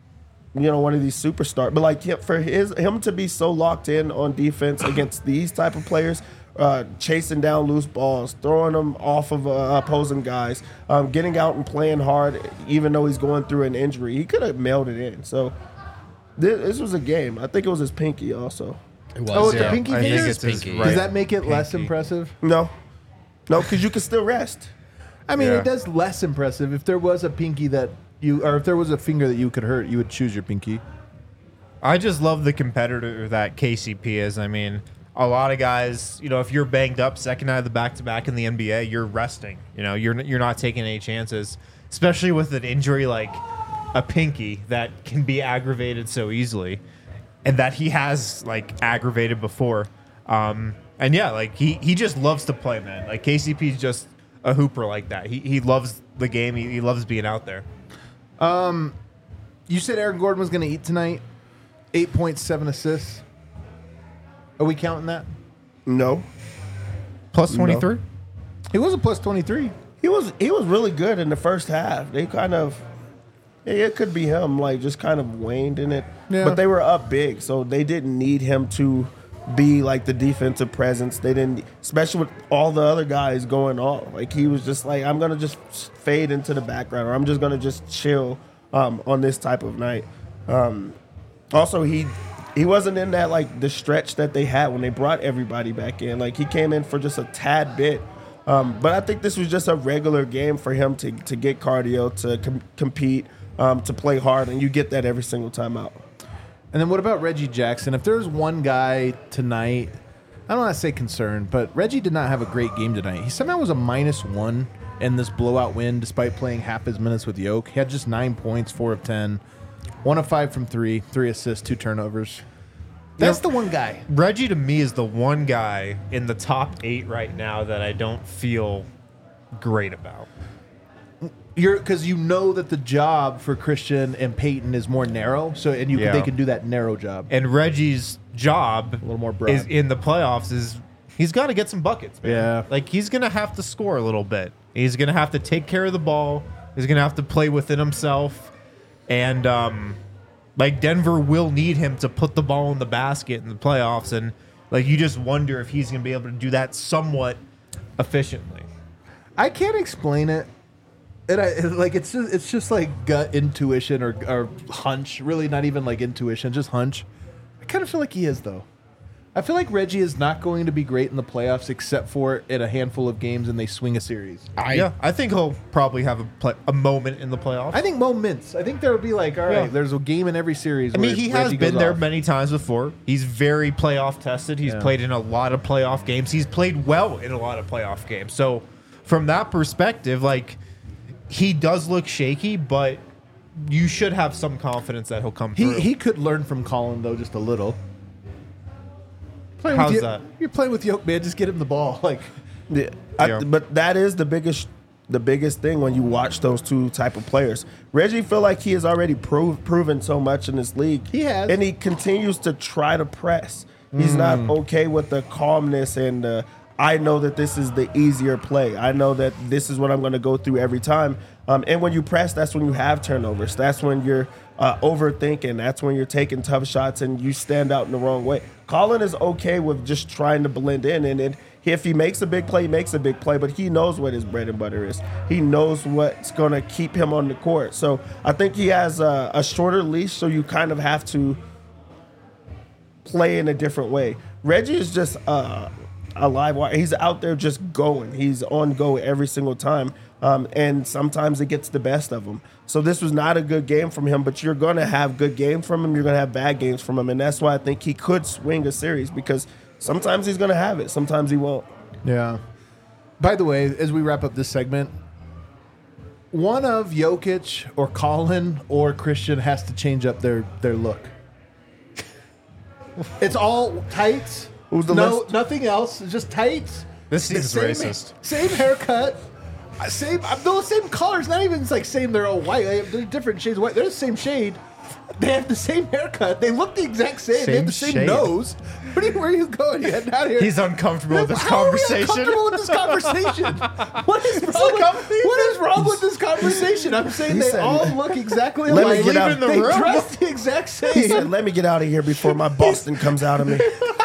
one of these superstars, but like for him to be so locked in on defense against these type of players, chasing down loose balls, throwing them off of opposing guys, getting out and playing hard, even though he's going through an injury, he could have mailed it in. So this was a game. I think it was his pinky also. It was. Oh, it's the pinky I think finger? it's his Pinky. right Does that make it less pinky. impressive? No, because you can still rest. I mean, Yeah. it does less impressive. If there was a pinky or if there was a finger that you could hurt, you would choose your pinky. I just love the competitor that KCP is. I mean, a lot of guys, if you're banged up second night of the back-to-back in the NBA, you're resting. You're not taking any chances, especially with an injury like a pinky that can be aggravated so easily, and that he has like aggravated before. And yeah, like he just loves to play, man. Like KCP's just a hooper like that. He loves the game. He loves being out there. You said Aaron Gordon was going to eat tonight. 8.7 assists. Are we counting that? No, Plus 23. He was a plus 23. he was really good in the first half. They kind of. It could be him, like just kind of waned in it, Yeah. but they were up big, so they didn't need him to be like the defensive presence. They didn't, especially with all the other guys going off. Like he was just like, I'm gonna just fade into the background, or I'm just gonna just chill on this type of night. Also, he wasn't in that like the stretch that they had when they brought everybody back in. Like he came in for just a tad bit. But I think this was just a regular game for him to get cardio, to compete, to play hard, and you get that every single time out. And then what about Reggie Jackson? If there's one guy tonight, I don't want to say concerned, but Reggie did not have a great game tonight. He somehow was a -1 in this blowout win despite playing half his minutes with Yoke. He had just 9 points, 4 of 10, 1 of 5 from 3, 3 assists, 2 turnovers. That's the one guy. Reggie to me is the one guy in the top 8 right now that I don't feel great about. Because that the job for Christian and Peyton is more narrow, Yeah. they can do that narrow job. And Reggie's job A little more broad. is in the playoffs is He's got to get some buckets, man. Yeah. Like, he's going to have to score a little bit. He's going to have to take care of the ball. He's going to have to play within himself. And, like, Denver will need him to put the ball in the basket in the playoffs. And, like, you just wonder if he's going to be able to do that somewhat efficiently. I can't explain it. And it's just like gut intuition or hunch. Really, not even like intuition, just hunch. I kind of feel like he is, though. I feel like Reggie is not going to be great in the playoffs except for in a handful of games and they swing a series. I think he'll probably have a moment in the playoffs. I think moments. I think there will be like, all right, there's a game in every series. I mean, he has Reggie been goes there off. many times before. He's very playoff tested. He's played in a lot of playoff games. He's played well in a lot of playoff games. So from that perspective, like, he does look shaky, but you should have some confidence that he'll come through. He could learn from Colin, though, just a little. How's that? You're playing with Yoke, man. Just get him the ball. Like, But that is the biggest thing when you watch those two type of players. Reggie feel like he has already proven so much in this league. He has. And he continues to try to press. He's not okay with the calmness and I know that this is the easier play. I know that this is what I'm going to go through every time. And when you press, that's when you have turnovers. That's when you're overthinking. That's when you're taking tough shots and you stand out in the wrong way. Colin is okay with just trying to blend in. And if he makes a big play, he makes a big play. But he knows what his bread and butter is. He knows what's going to keep him on the court. So I think he has a shorter leash, so you kind of have to play in a different way. Reggie is just a live wire. He's out there just going. He's on go every single time. And sometimes it gets the best of him. So this was not a good game from him, but you're going to have good games from him. You're going to have bad games from him. And that's why I think he could swing a series because sometimes he's going to have it. Sometimes he won't. yeah. By the way, as we wrap up this segment, one of Jokic or Colin or Christian has to change up their look. It's all tights. Who's the list? Nothing else. It's just tights. This season's Same- racist. Same haircut. Same colors. Not even it's like same. They're all white. They're different shades of white. They're the same shade. They have the same haircut. They look the exact same. They have the same shade. nose. Where are you going? You're heading out of here. He's uncomfortable with this How conversation. Are we uncomfortable with this conversation? What is wrong with this conversation? I'm saying He they said, all look exactly "Let me alike. get out." in the They room. dress the exact He same. said, let me get out of here before my Boston comes out of me.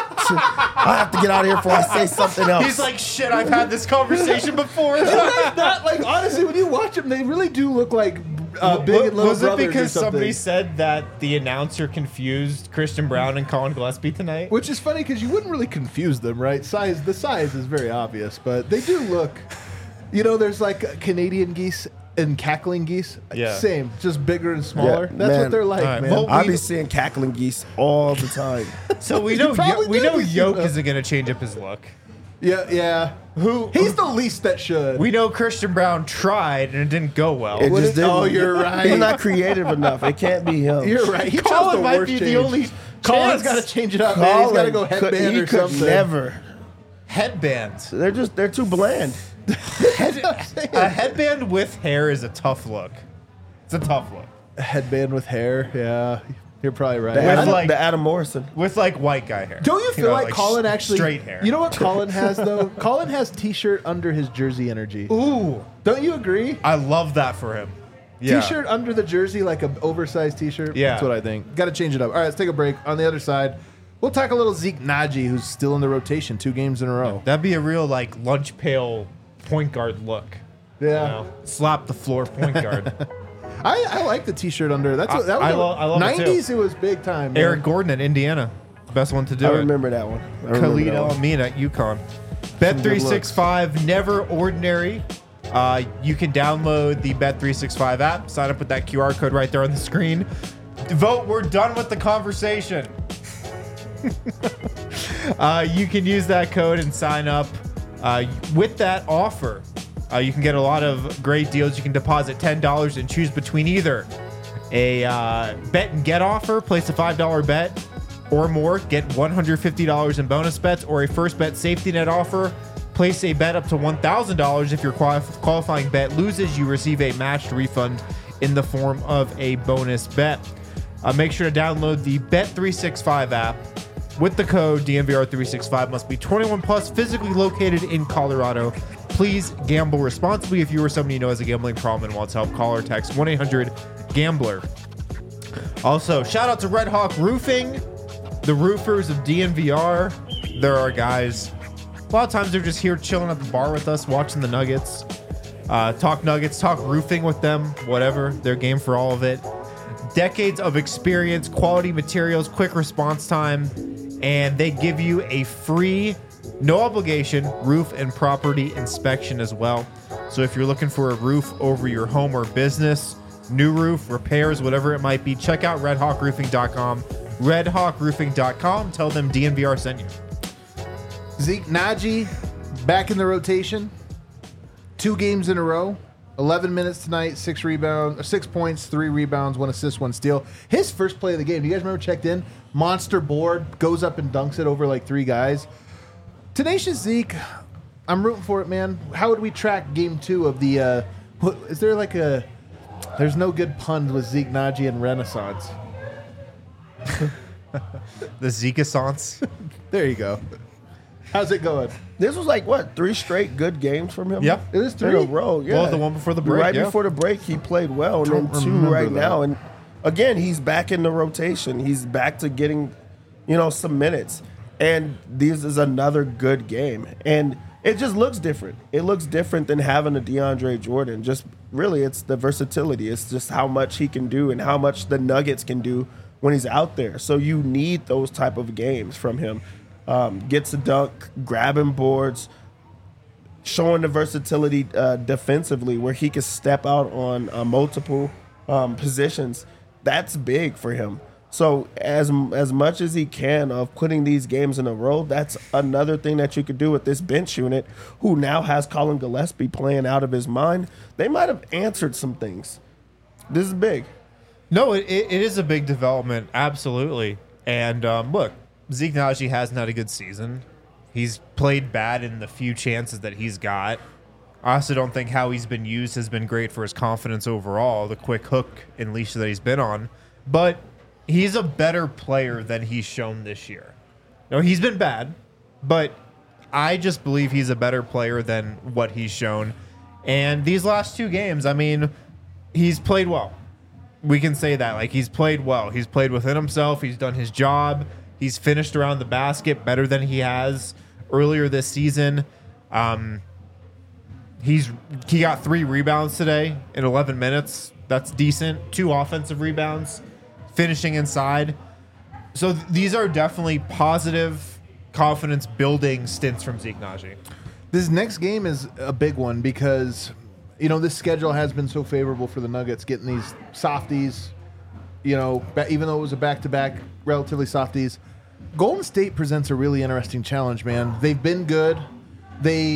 I have to get out of here before I say something else. He's like, shit, I've had this conversation before. Not like honestly, when you watch them, they really do look like big and little Was it brothers because or something. somebody said that the announcer confused Christian Brown and Colin Gillespie tonight? Which is funny because you wouldn't really confuse them, right? The size is very obvious, but they do look. You know, there's like Canadian geese and cackling geese. Yeah. Same, just bigger and smaller. Yeah, That's man. what they're like, All right, man. well, I be seeing cackling geese all the time. So we know probably we do know be Yoke seeing isn't going to change up his look. Yeah. He's the least that should. We know Christian Brown tried and it didn't go well. It just didn't. Oh, you're right. He's not creative enough. It can't be him. You're right. He chose Colin the might worst be the change. only Colin's chance. got to change it up, man. He's got to go headband he or could something. never. Headbands. They're too bland. A headband with hair is a tough look. It's a tough look. Headband with hair. Yeah, you're probably right. The Adam, like- the Adam Morrison. With like white guy hair. Don't you feel know, like Colin actually straight hair? You know what Colin has though? Colin has T-shirt under his jersey energy. Ooh, Don't you agree? I love that for him. Yeah. T-shirt under the jersey, like an oversized T-shirt. Yeah. That's what I think. Got to change it up. All right, let's take a break. On the other side, we'll talk a little Zeke Naji, who's still in the rotation, 2 games in a row. That'd be a real like lunch pail point guard look. Yeah, You know? Slap the floor point guard. I like the T-shirt under. That was I love it, too. 90s. It was big time. man. Eric Gordon at Indiana, best one to do I it. remember that one. Khalid El-Amin at UConn. Bet365, never ordinary. You can download the Bet365 app, sign up with that QR code right there on the screen. Vote, we're done with the conversation. You can use that code and sign up. With that offer, you can get a lot of great deals. You can deposit $10 and choose between either a bet and get offer, place a $5 bet or more, get $150 in bonus bets, or a first bet safety net offer. Place a bet up to $1,000. If your qualifying bet loses, you receive a matched refund in the form of a bonus bet. Make sure to download the Bet365 app. with the code DNVR365. Must be 21 plus, physically located in Colorado. Please gamble responsibly. If you or somebody you know has a gambling problem and wants help, call or text 1-800-GAMBLER. Also, shout out to Red Hawk Roofing, the roofers of DNVR. They're our guys. A lot of times they're just here chilling at the bar with us, watching the Nuggets. Talk Nuggets, talk roofing with them, whatever. They're game for all of it. Decades of experience, quality materials, quick response time, and they give you a free, no obligation roof and property inspection as well. So if you're looking for a roof over your home or business, new roof, repairs, whatever it might be, check out redhawkroofing.com. redhawkroofing.com. Tell them DNVR sent you. Zeke Naji back in the rotation. 2 games in a row. 11 minutes tonight, 6 points, 3 rebounds, 1 assist, 1 steal. His first play of the game, do you guys remember, checked in? Monster board, goes up and dunks it over like 3 guys. Tenacious Zeke, I'm rooting for it, man. How would we track game 2 of the, is there like a, there's no good pun with Zeke Naji and Renaissance. The Zeke-assance. There you go. How's it going? This was like, what, 3 straight good games from him? Yep. It was 3 in a row, yeah. Well, the one before the break, Right yeah. before the break, he played well, and Don't then 2 remember right that. now. And again, he's back in the rotation. He's back to getting, some minutes. And this is another good game. And it just looks different. It looks different than having a DeAndre Jordan. Just really, it's the versatility. It's just how much he can do and how much the Nuggets can do when he's out there. So you need those type of games from him. Gets a dunk, grabbing boards, showing the versatility defensively where he can step out on multiple positions. That's big for him. So as much as he can of putting these games in a row, that's another thing that you could do with this bench unit who now has Colin Gillespie playing out of his mind. They might have answered some things. This is big. No, it is a big development, absolutely. And look, Zeke Naji hasn't had a good season. He's played bad in the few chances that he's got. I also don't think how he's been used has been great for his confidence overall, the quick hook and leash that he's been on. But he's a better player than he's shown this year. No, he's been bad, but I just believe he's a better player than what he's shown. And these last 2 games, I mean, he's played well. We can say that. Like, he's played well. He's played within himself. He's done his job. He's finished around the basket better than he has earlier this season. He got 3 rebounds today in 11 minutes. That's decent. 2 offensive rebounds, finishing inside. So these are definitely positive, confidence-building stints from Zeke Naji. This next game is a big one because, this schedule has been so favorable for the Nuggets, getting these softies, even though it was a back-to-back, relatively softies. Golden State presents a really interesting challenge, man. They've been good. They,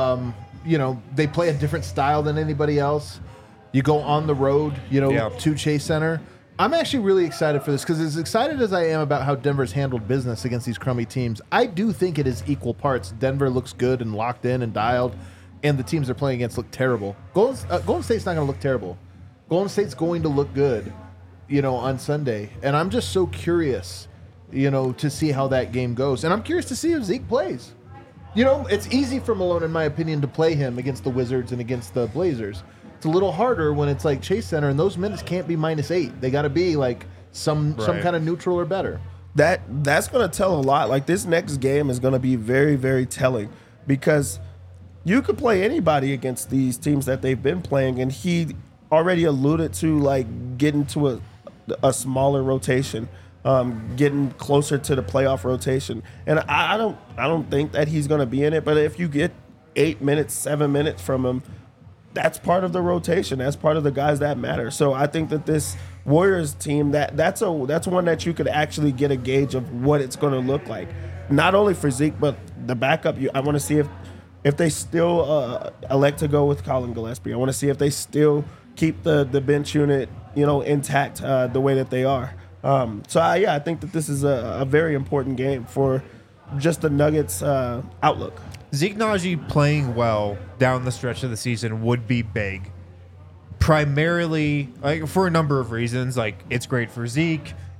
they play a different style than anybody else. You go on the road, to Chase Center. I'm actually really excited for this because as excited as I am about how Denver's handled business against these crummy teams, I do think it is equal parts. Denver looks good and locked in and dialed, and the teams they're playing against look terrible. Golden State's not going to look terrible. Golden State's going to look good, on Sunday. And I'm just so curious, to see how that game goes. And I'm curious to see if Zeke plays. It's easy for Malone, in my opinion, to play him against the Wizards and against the Blazers. It's a little harder when it's like Chase Center, and those minutes can't be -8. They got to be like some kind of neutral or better. That's going to tell a lot. Like, this next game is going to be very, very telling because you could play anybody against these teams that they've been playing, and he already alluded to, like, getting to a smaller rotation, getting closer to the playoff rotation. And I don't think that he's going to be in it, but if you get 8 minutes, 7 minutes from him, that's part of the rotation. That's part of the guys that matter. So I think that this Warriors team, that's one that you could actually get a gauge of what it's going to look like. Not only for Zeke, but the backup. I want to see if they still elect to go with Colin Gillespie. I want to see if they still keep the bench unit, intact the way that they are. I think that this is a very important game for just the Nuggets' outlook. Zeke Naji playing well down the stretch of the season would be big. Primarily, for a number of reasons. Like, it's great for Zeke.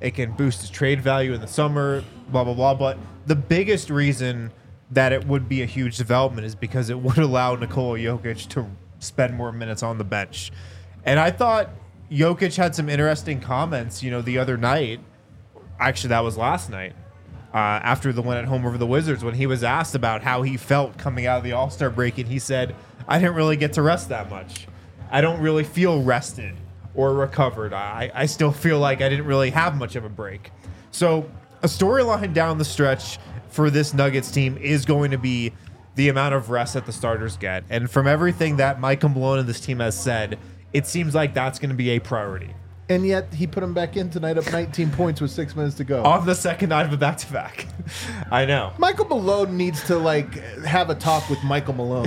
It can boost his trade value in the summer, blah, blah, blah. But the biggest reason that it would be a huge development is because it would allow Nikola Jokic to spend more minutes on the bench. And I thought Jokic had some interesting comments, the other night. Actually, that was last night. After the win at home over the Wizards, when he was asked about how he felt coming out of the All-Star break, and he said, I didn't really get to rest that much. I don't really feel rested or recovered. I still feel like I didn't really have much of a break. So a storyline down the stretch for this Nuggets team is going to be the amount of rest that the starters get. And from everything that Michael Malone and this team has said, it seems like that's going to be a priority. And yet he put him back in tonight up 19 points with 6 minutes to go. On the second night of a back-to-back. I know. Michael Malone needs to have a talk with Michael Malone.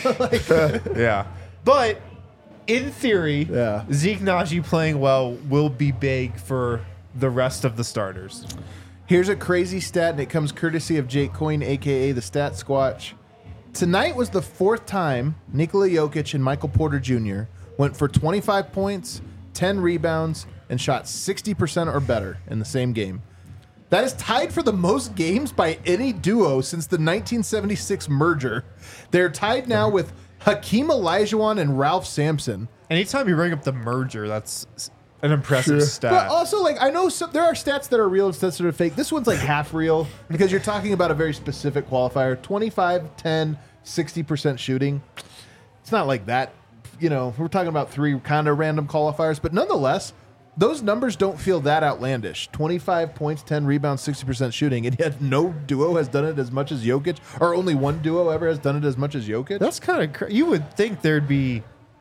Yeah. But in theory, Yeah. Zeke Naji playing well will be big for the rest of the starters. Here's a crazy stat, and it comes courtesy of Jake Coyne, a.k.a. the Stat Squatch. Tonight was the 4th time Nikola Jokic and Michael Porter Jr. went for 25 points, 10 rebounds, and shot 60% or better in the same game. That is tied for the most games by any duo since the 1976 merger. They're tied now with Hakeem Olajuwon and Ralph Sampson. Anytime you bring up the merger, that's an impressive stat. But also, I know there are stats that are real and stats that are fake. This one's half real because you're talking about a very specific qualifier. 25, 10, 60% shooting. It's not like that. We're talking about 3 kind of random qualifiers, but nonetheless, those numbers don't feel that outlandish. 25 points, 10 rebounds, 60% shooting, and yet no duo has done it as much as Jokic, or only one duo ever has done it as much as Jokic. That's kind of you would think there'd be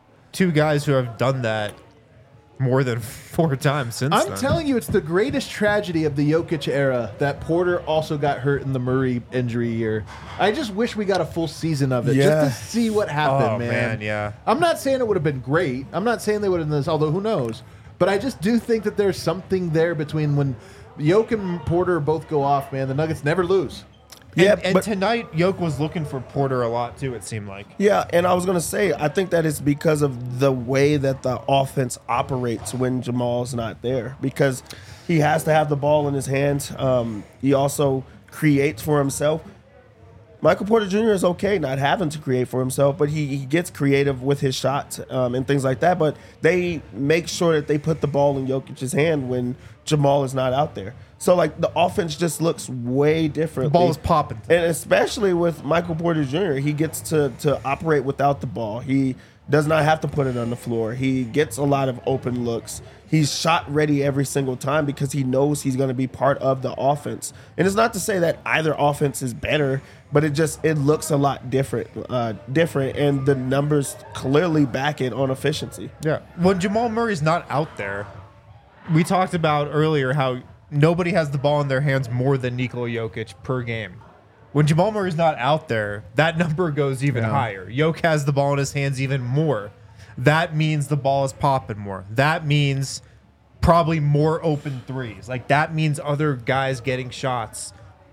2 guys who have done that more than 4 times since then. I'm telling you, it's the greatest tragedy of the Jokic era that Porter also got hurt in the Murray injury year. I just wish we got a full season of it just to see what happened, man. Yeah. I'm not saying it would have been great. I'm not saying they would have done this, although who knows. But I just do think that there's something there between when Jokic and Porter both go off, man. The Nuggets never lose. And tonight, Jokic was looking for Porter a lot, too, it seemed like. Yeah, and I was going to say, I think that it's because of the way that the offense operates when Jamal's not there, because he has to have the ball in his hands. He also creates for himself. Michael Porter Jr. is okay not having to create for himself, but he gets creative with his shots and things like that. But they make sure that they put the ball in Jokic's hand when Jamal is not out there. So, the offense just looks way different. The ball is popping. And especially with Michael Porter Jr., he gets to operate without the ball. He does not have to put it on the floor. He gets a lot of open looks. He's shot ready every single time because he knows he's going to be part of the offense. And it's not to say that either offense is better, but it looks a lot different, and the numbers clearly back it on efficiency. Yeah. When Jamal Murray's not out there, we talked about earlier how nobody has the ball in their hands more than Nikola Jokic per game. When Jamal Murray's not out there, that number goes even higher. Jokic has the ball in his hands even more. That means the ball is popping more. That means probably more open threes. That means other guys getting shots,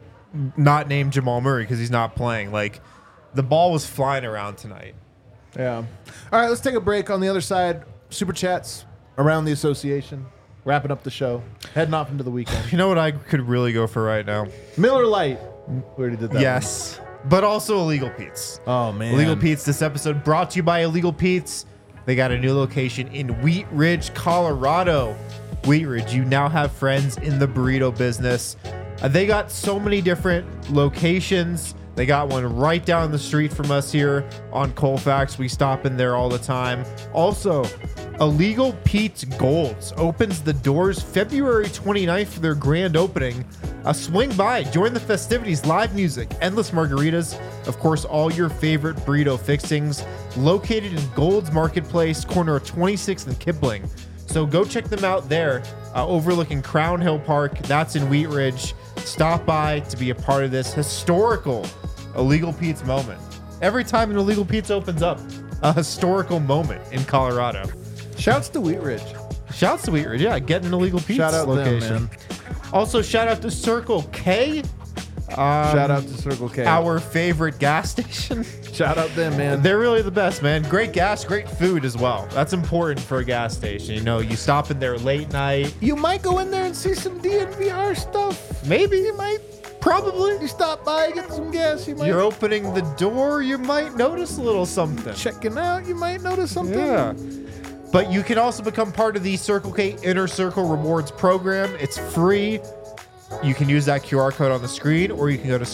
not named Jamal Murray because he's not playing. The ball was flying around tonight. Yeah. All right, let's take a break. On the other side, Super Chats around the association. Wrapping up the show. Heading off into the weekend. You know what I could really go for right now? Miller Lite. We already did that. Yes. But also Illegal Pete's. Oh, man. Illegal Pete's, this episode brought to you by Illegal Pete's. They got a new location in Wheat Ridge, Colorado. Wheat Ridge, you now have friends in the burrito business. They got so many different locations. They got one right down the street from us here on Colfax. We stop in there all the time. Also, Illegal Pete's Golds opens the doors February 29th for their grand opening. Swing by, join the festivities, live music, endless margaritas, of course, all your favorite burrito fixings, located in Gold's Marketplace, corner of 26th and Kipling. So go check them out there, overlooking Crown Hill Park. That's in Wheat Ridge. Stop by to be a part of this historical Illegal Pete's moment. Every time an Illegal Pete's opens up, a historical moment in Colorado. Shouts to Wheat Ridge. Shouts to Wheat Ridge, yeah. Get an Illegal Pete's Shout out location. them, man. Also, shout out to Circle K. Shout out to Circle K. Our favorite gas station. Shout out them, man. They're really the best, man. Great gas, great food as well. That's important for a gas station. You know, you stop in there late night. You might go in there and see some DNVR stuff. Maybe you might. Probably. You stop by, get some gas. You might. You're opening the door, you might notice a little something. Checking out, you might notice something. Yeah. But you can also become part of the Circle K Inner Circle Rewards program. It's free. You can use that QR code on the screen, or you can go to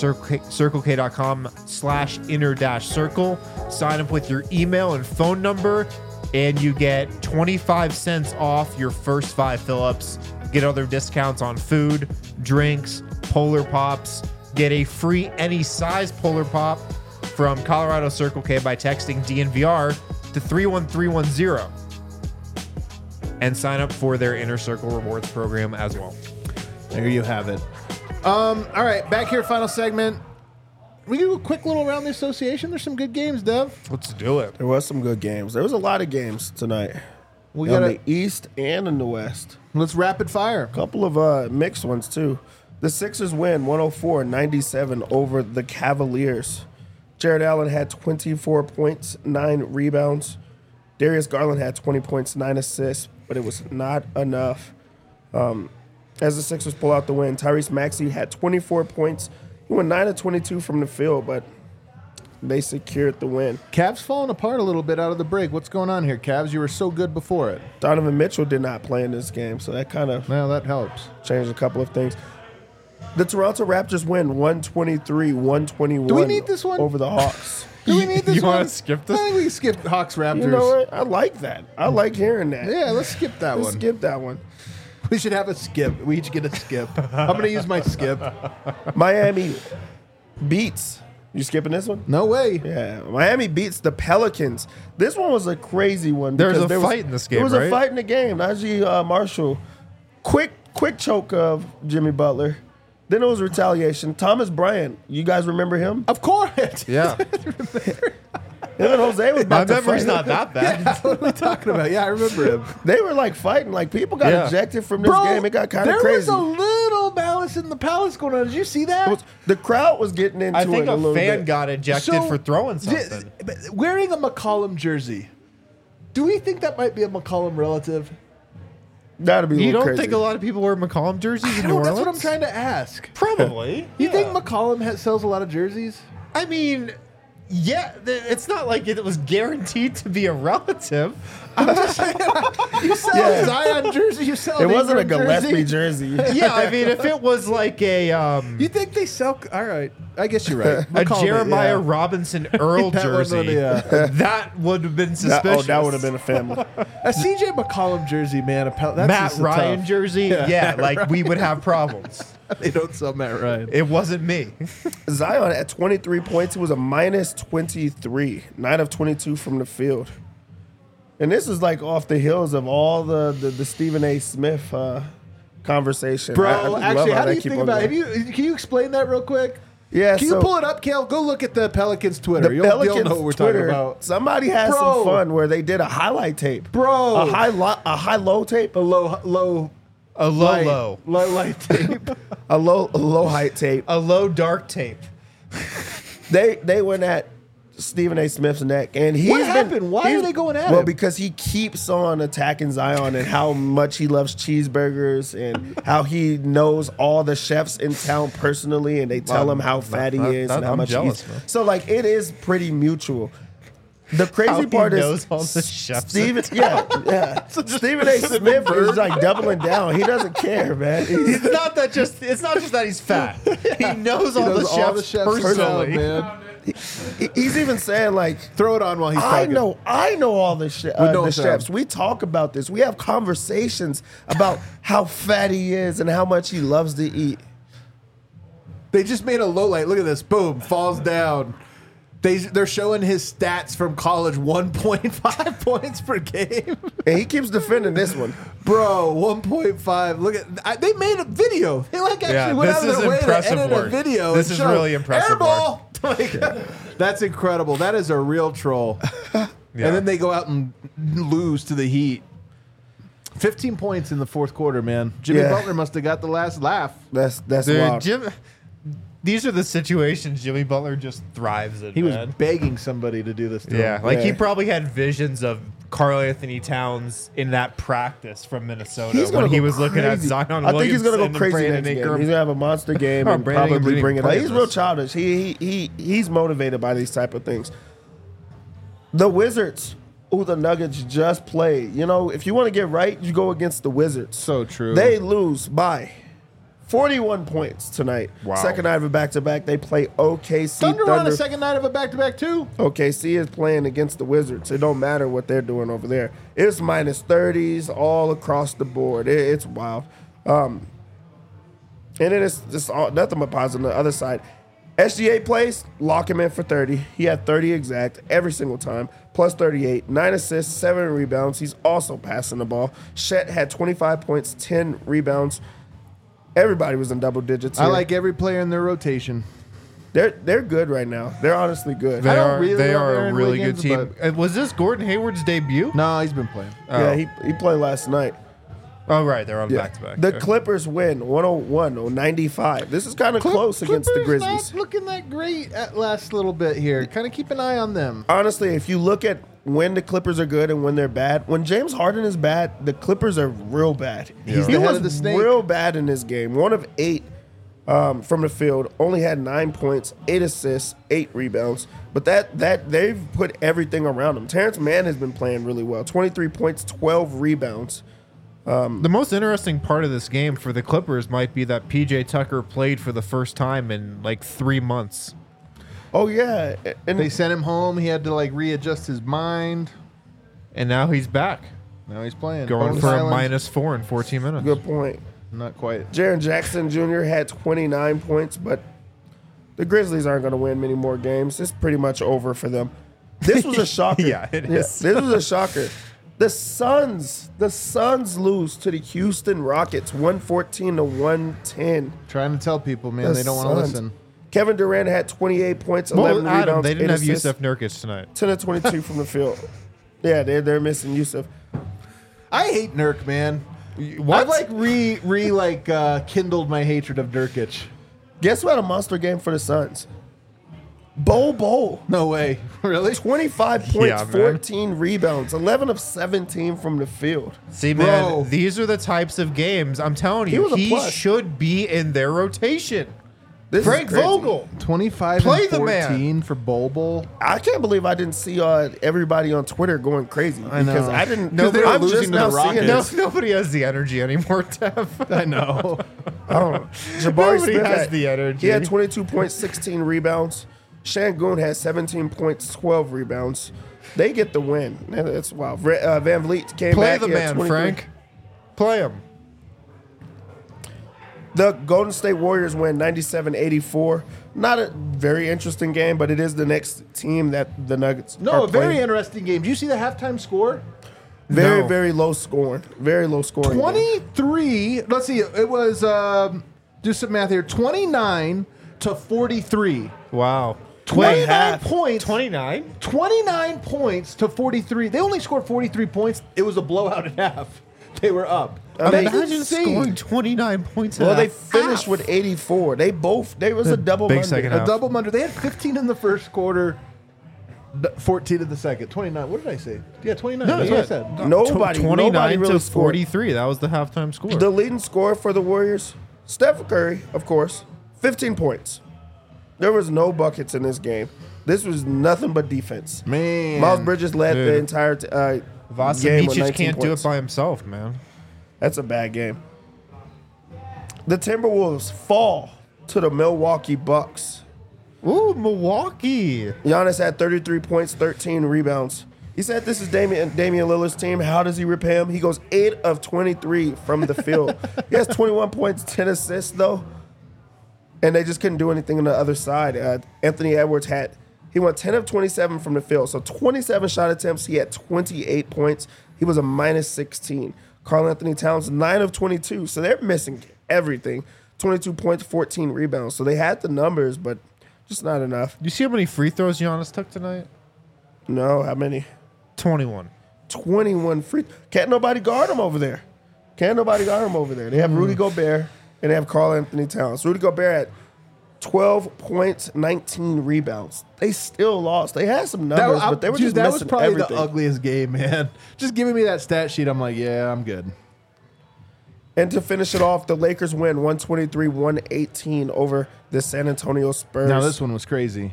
circlek.com/inner-circle, sign up with your email and phone number, and you get 25 cents off your first 5 fill-ups. Get other discounts on food, drinks, Polar Pops. Get a free any size Polar Pop from Colorado Circle K by texting DNVR to 31310 and sign up for their Inner Circle Rewards program as well. There you have it. All right, back here, final segment. We do a quick little around the association. There's some good games, Dev. Let's do it. There was some good games. There was a lot of games tonight. We in got the East and in the West. Let's rapid fire. A couple of mixed ones, too. The Sixers win 104-97 over the Cavaliers. Jared Allen had 24 points, 9 rebounds. Darius Garland had 20 points, 9 assists, but it was not enough. As the Sixers pull out the win, Tyrese Maxey had 24 points. He went 9 of 22 from the field, but they secured the win. Cavs falling apart a little bit out of the break. What's going on here, Cavs? You were so good before it. Donovan Mitchell did not play in this game, so that kind of Well, that helps. changed a couple of things. The Toronto Raptors win 123-121 Do we need this one? over the Hawks. Do we need this You one? wanna skip this? I think we can skip Hawks Raptors. You know what? I like that. I like hearing that. Yeah, let's skip that Let's one. skip that one. We should have a skip. We each get a skip. I'm going to use my skip. Miami beats. You skipping this one? No way. Yeah, Miami beats the Pelicans. This one was a crazy one. There was because a fight in this game, There was right? a fight in the game. Najee Marshall, quick choke of Jimmy Butler. Then it was retaliation. Thomas Bryant, you guys remember him? Of course. Yeah. Him and Jose was My about to memory's fight. not that bad. What are we talking about? Yeah, I remember him. They were like fighting. Like people got Yeah. ejected from this game. It got kind of there crazy. was a little malice in the palace going on. Did you see that? It was- the crowd was getting into I think it a a little fan bit. got ejected So, for throwing something. Wearing a McCollum jersey. Do we think that might be a McCollum relative? That'd be a You little don't crazy. think a lot of people wear McCollum jerseys in New Orleans? That's what I'm trying to ask. Probably. You think McCollum sells a lot of jerseys? I mean, yeah, it's not like it was guaranteed to be a relative. You sell Yeah. a Zion jersey. You sell. It an wasn't a Ingram Gillespie jersey. Yeah, I mean, if it was like a You think they sell? All right, I guess you're right. a McCollum, Jeremiah yeah. Robinson Earl That one, jersey, yeah. that would have been suspicious. that would have been a family. A CJ McCollum jersey, man. That's Matt just Ryan tough. jersey. Yeah, like we would have problems. They don't sell Matt Ryan. It wasn't me. Zion at 23 points, he was a minus 23, 9 of 22 from the field. And this is like off the heels of all the Stephen A. Smith conversation. Bro, I just love actually, how do they you keep think on about it? going. Can you explain that real quick? Yeah, Can so you pull it up, Kale? Go look at the Pelicans Twitter. the You'll Pelicans know what we're Twitter, talking about. somebody had Bro. some fun where they did a highlight tape. Bro. A high-low tape. A low A low light tape. A low height tape. a low dark tape. They went at Stephen A. Smith's neck, and he's What been- happened? Why are he's- they going at Well, him? because he keeps on attacking Zion and how much he loves cheeseburgers and how he knows all the chefs in town personally, and they tell him how fat he is and how I'm much jealous, he man. eats. So like it is pretty mutual. The How crazy he part is knows all the chefs. Stephen, yeah. Stephen A. Smith is like doubling down. He doesn't care, man. It's not just that he's fat. He knows all the chefs personally. man. He's even saying like, Throw it on while he's I talking. know all the, know the some. chefs. We talk about this. We have conversations about how fat he is and how much he loves to eat. They just made a low light. Look at this. Boom. Falls down. They're showing his stats from college. 1.5 points per game. And he keeps defending this one. Bro, 1.5. Look at they made a video. They like actually Yeah, went this out of is their way to impressive edit work. a video. This and is show really impressive Airball. Like, that's incredible. That is a real troll. And then they go out and lose to the Heat. 15 points in the fourth quarter, man. Jimmy Yeah. Butler must have got the last laugh. That's Dude, wild. these are the situations Jimmy Butler just thrives in. He was man. begging somebody to do this to him. Like he probably had visions of Karl Anthony Towns in that practice from Minnesota when he was looking at Zion I think he's going to Williamson go crazy and next Brandon game. Ingram. He's going to have a monster game Oh, and Brandon Ingram probably didn't bring it even up. play He's in real this. childish. He's motivated by these type of things. The Wizards, who the Nuggets just played. You know, if you want to get right, you go against the Wizards. So true. They lose by 41 points tonight. Wow. Second night of a back-to-back. They play OKC Thunder on Thunder. a second night of a back-to-back, too. OKC is playing against the Wizards. It don't matter what they're doing over there. It's minus 30s all across the board. It's wild. And then it's just nothing but positive on the other side. SGA plays, lock him in for 30. He had 30 exact every single time, plus 38, 9 assists, 7 rebounds. He's also passing the ball. Chet had 25 points, 10 rebounds. Everybody was in double digits I here. like every player in their rotation. They're good right now. They're honestly good. They I don't are really they love are a Aaron really Wiggins, good team. Was this Gordon Hayward's debut? No, he's been playing. Yeah, he played last night. Oh right, they're on Yeah. back to back. The Clippers win 101-95. This is kind of close against the Clippers Grizzlies. not looking that great at last little bit here. Kind of keep an eye on them. Honestly, if you look at when the Clippers are good and when they're bad, when James Harden is bad, the Clippers are real bad. He's He the head was of the snake. real bad in this game. 1 of 8 from the field, only had 9 points, 8 assists, 8 rebounds. But that they've put everything around him. Terrence Mann has been playing really well. 23 points, 12 rebounds. The most interesting part of this game for the Clippers might be that PJ Tucker played for the first time in like 3 months. Oh yeah, and They sent him home. He had to like readjust his mind. And now he's back, Now he's playing. going Bones for a Island. -4 in 14 minutes. good point. Not quite. Jaren Jackson Jr. had 29 points, but the Grizzlies aren't going to win many more games. It's pretty much over for them. This was a shocker. Yeah, it is. This was a shocker. The Suns lose to the Houston Rockets 114-110. Trying to tell people, man, The they don't want to Suns. listen. Kevin Durant had 28 points, 11 Well, Adam, rebounds, they didn't 8 have assists, Yusuf Nurkic tonight. 10 of 22 from the field. Yeah, they're missing Yusuf. I hate Nurk, man. What? I've kindled my hatred of Nurkic. Guess what? A monster game for the Suns. Bo. No way. Really? 25 points, Yeah, man. 14 rebounds, 11 of 17 from the field. See, man, Bro. these are the types of games. I'm telling you, was a he plus. should be in their rotation. This is Frank crazy. Vogel. 25 Play and the 14 man. for Bobo. I can't believe I didn't see everybody on Twitter going crazy I know. because I didn't. No, they were I'm losing just to the now seeing Rockets. it. No, nobody has the energy anymore, Tev. I know. Oh, Jabari Nobody Smith has had, the energy. He had 22 points, 16 rebounds. Shangoon had 17 points, 12 rebounds. They get the win. That's wild. Van Vliet came Play back. the he had man, 23. Frank. Play him. The Golden State Warriors win 97-84. Not a very interesting game, but it is the next team that the Nuggets No, are a very playing. interesting game. Do you see the halftime score? Very, No. very low scoring. Very low scoring. game. 23. Let's see. It was, do some math here, 29 to 43. Wow. 29 half. points. 29? 29 points to 43. They only scored 43 points. It was a blowout at half. They were up. I mean, That's Imagine insane. scoring 29 points. Well, at they half. finished with 84. There was a double big Monday. second A half. double under. They had 15 in the first quarter, 14 in the second. 29. What did I say? Yeah, 29. No, That's yeah. what I said. Nobody 29 really to scored. 43. That was the halftime score. The leading scorer for the Warriors, Steph Curry, of course, 15 points. There was no buckets in this game. This was nothing but defense. Man. Miles Bridges led the Dude. entire game with Vasilicic 19 can't do points. it by himself, man. That's a bad game. The Timberwolves fall to the Milwaukee Bucks. Ooh, Milwaukee. Giannis had 33 points, 13 rebounds. He said this is Damian Lillard's team. How does he repay him? He goes 8 of 23 from the field. He has 21 points, 10 assists, though. And they just couldn't do anything on the other side. Anthony Edwards he went 10 of 27 from the field. So 27 shot attempts. He had 28 points. He was a minus 16. Karl Anthony Towns, 9 of 22. So they're missing everything. 22 points, 14 rebounds. So they had the numbers, but just not enough. You see how many free throws Giannis took tonight? No, how many? 21. 21 free. Can't nobody guard him over there. They have Rudy Gobert and they have Karl Anthony Towns. Rudy Gobert had 12 points, 19 rebounds. They still lost. They had some numbers, but they were just that was missing probably everything. the ugliest game, man. Just giving me that stat sheet, I'm like, yeah, I'm good. And to finish it off, the Lakers win 123-118 over the San Antonio Spurs. Now this one was crazy.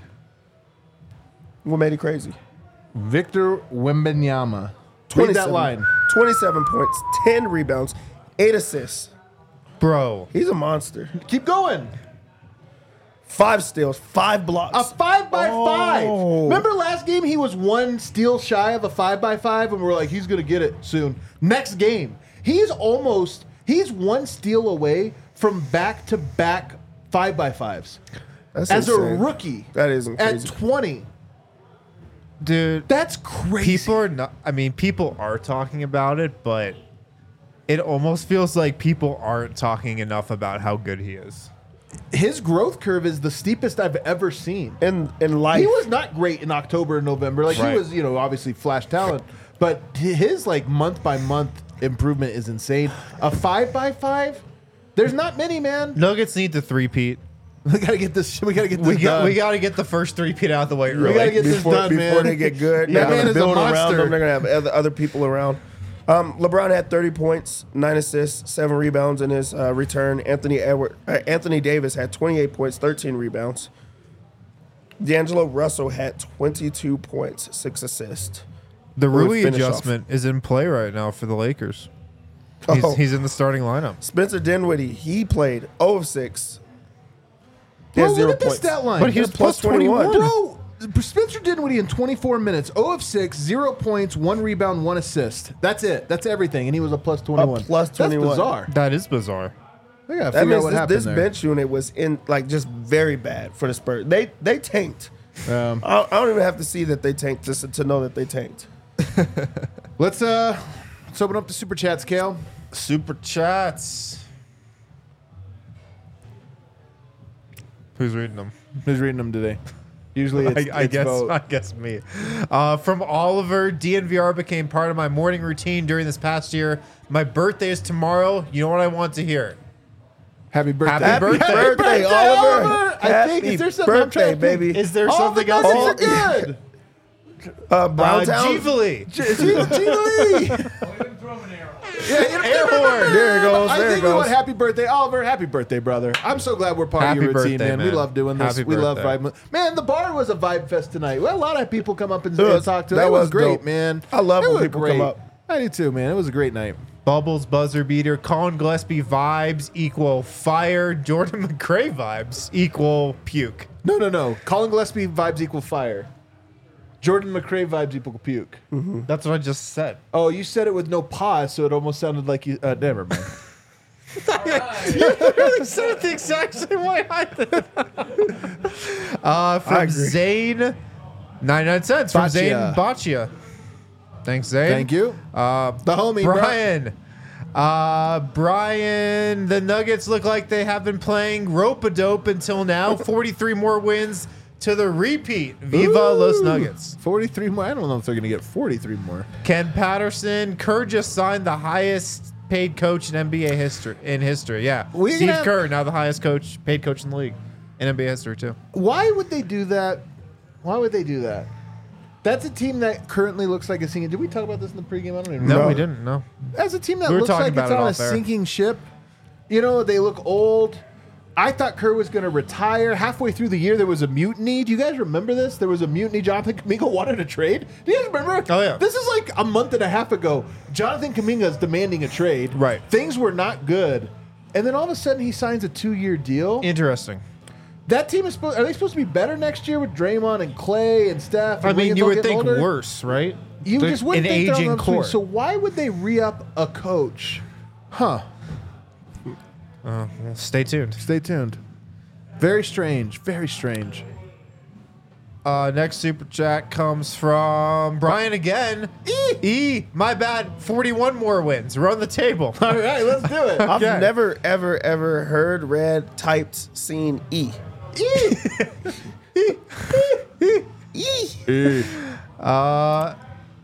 What made it crazy? Victor Wembanyama. Read that line. 27 points, 10 rebounds, 8 assists. Bro. He's a monster. Keep going. 5 steals, 5 blocks. A 5x5. Oh. Remember last game he was 1 steal shy of a 5x5, and we're like, he's gonna get it soon. Next game, he's 1 steal away from back-to-back 5x5s. That's as a insane. rookie. That isn't at crazy. 20. Dude, That's crazy. People are talking about it, but it almost feels like people aren't talking enough about how good he is. His growth curve is the steepest I've ever seen. In life. He was not great in October and November. Like Right. he was, obviously flash talent, but his like month by month improvement is insane. A 5x5, there's not many, man. Nuggets need to three-peat. We gotta get this. We gotta get this We done. got to get the first three-peat out of the way We early. gotta get this done, before man. they get good. That They're man gonna is a build around monster. them. They're going to have other people around. LeBron had 30 points, 9 assists, 7 rebounds in his return. Anthony Davis had 28 points, 13 rebounds. D'Angelo Russell had 22 points, 6 assists. The We'll Rui finish adjustment is in play right now for the Lakers. Oh. He's in the starting lineup. Spencer Dinwiddie, he played 0 of 6. He Bro, had 0 look at this points. stat line. But he was plus plus 21. Bro, Spencer Dinwiddie in 24 minutes, 0 of 6, 0 points, 1 rebound, 1 assist. That's it. That's everything. And he was a plus 21. plus 21. That's bizarre. That is bizarre. We gotta That figure out means what happened this there. bench unit was in just very bad for the Spurs. They tanked. Um, I don't even have to see that they tanked to know that they tanked. Let's open up the super chats, Kale. Super chats. Who's reading them? Who's reading them today? Usually it's, I guess me. From Oliver, DNVR became part of my morning routine during this past year. My birthday is tomorrow. You know what I want to hear? Happy birthday. Happy birthday, Oliver. I think, is there something I'm trying birthday, to think? baby. Is there All something the else? nuggets are good. Browntown. Givali. Gina Lee. Air horn. There it goes. I There it think we want goes. happy birthday, Oliver. Happy birthday, brother. I'm so glad we're part Happy of your routine, birthday, man. We man. love doing this. Happy We love birthday. vibing. Man, the bar was a vibe fest tonight. We had a lot of people come up and was- talk to us. that It was was great, dope. man. I love It when was people great. come up. I do too, man. It was a great night. Bubbles buzzer beater. Colin Gillespie vibes equal fire. Jordan McRae vibes equal puke. No. Colin Gillespie vibes equal fire. Jordan McRae vibes equal puke. That's what I just said. Oh, you said it with no pause, so it almost sounded like you. Never mind. You said it the exact same way I did. From agree. Zane, 99 cents. From Baccia. Zane Baccia. Thanks, Zane. Thank you. The homie, bro. Brian, the Nuggets look like they have been playing rope-a-dope until now. 43 more wins to the repeat. Viva Los Nuggets. 43 more. I don't know if they're going to get 43 more. Ken Patterson, Kerr just signed the highest paid coach in NBA history. Yeah, We're Steve gonna have- Kerr, now the highest paid coach in the league in NBA history too. Why would they do that? Why would they do that? That's a team that currently looks like a sinking. Did we talk about this in the pregame? I don't even No, know. we didn't. No. As a team that We were looks talking like about it's it on a off air. sinking ship. They look old. I thought Kerr was going to retire. Halfway through the year, there was a mutiny. Do you guys remember this? There was a mutiny. Jonathan Kuminga wanted a trade. Do you guys remember? Oh, yeah. This is like a month and a half ago. Jonathan Kuminga is demanding a trade. Right. Things were not good. And then all of a sudden, he signs a 2-year deal. Interesting. That team is are they supposed to be better next year with Draymond and Clay and Steph? And I mean, Wiggins you all would getting think older? worse, right? You just wouldn't an think they're on aging the upswing. core. So why would they re-up a coach? Huh. Stay tuned. Stay tuned. Very strange. Very strange. Next super chat comes from Brian again. My bad. 41 more wins. Run the table. All right, let's do it. I've Okay. never, ever heard, read, typed, seen E.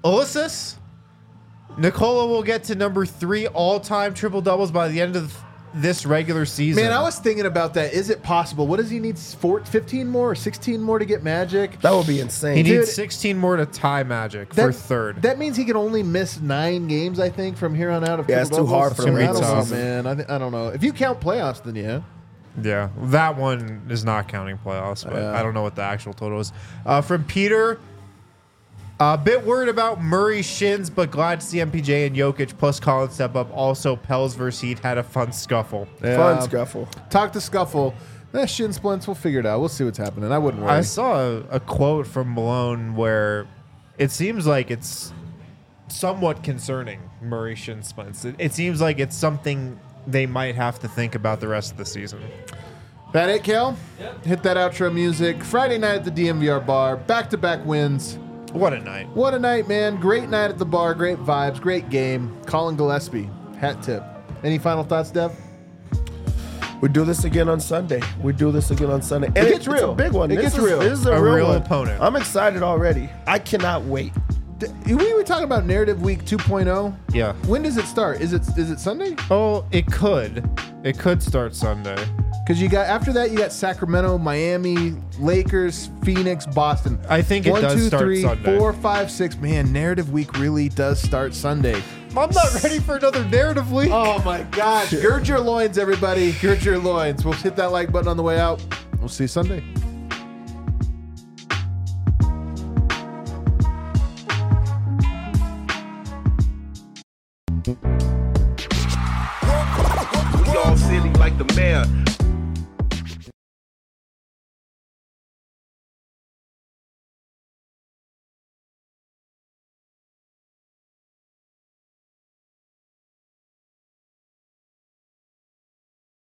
Ulysses. Nicola will get to number 3 all-time triple doubles by the end of this regular season. Man, I was thinking about that. Is it possible? What does he need? 15 more or 16 more to get Magic? That would be insane. he Dude, needs 16 more to tie Magic for third. That means he can only miss 9 games, I think, from here on out. Yeah, it's too hard for him. I don't know, Tough. man. I don't know. If you count playoffs, then yeah. Yeah, that one is not counting playoffs, but I don't know what the actual total is. From Peter, a bit worried about Murray's shins, but glad to see MPJ and Jokic plus Collins step up. Also, Pels versus Heat had a fun scuffle. Fun scuffle. Talk to Scuffle. Shin splints. We'll figure it out. We'll see what's happening. I wouldn't worry. I saw a quote from Malone where it seems like it's somewhat concerning, Murray shin splints. It seems like it's something they might have to think about the rest of the season. That it, Kel? Yep. Hit that outro music. Friday night at the DMVR bar. Back-to-back wins. What a night. What a night, man. Great night at the bar. Great vibes. Great game. Colin Gillespie. Hat tip. Any final thoughts, Dev? We do this again on Sunday. And It gets real. It's a big one. It gets real. This is a A real real one. opponent. I'm excited already. I cannot wait. We were talking about Narrative Week 2.0. Yeah. When does it start? Is it Sunday? Oh, it could. It could start Sunday. Because after that you got Sacramento, Miami, Lakers, Phoenix, Boston. I think it does start 1, 2, 3, Sunday. 4, 5, 6. Man, Narrative Week really does start Sunday. I'm not ready for another narrative week. Oh my gosh. Gird your loins, everybody. Gird your loins. We'll hit that like button on the way out. We'll see you Sunday. Y'all silly like the mayor.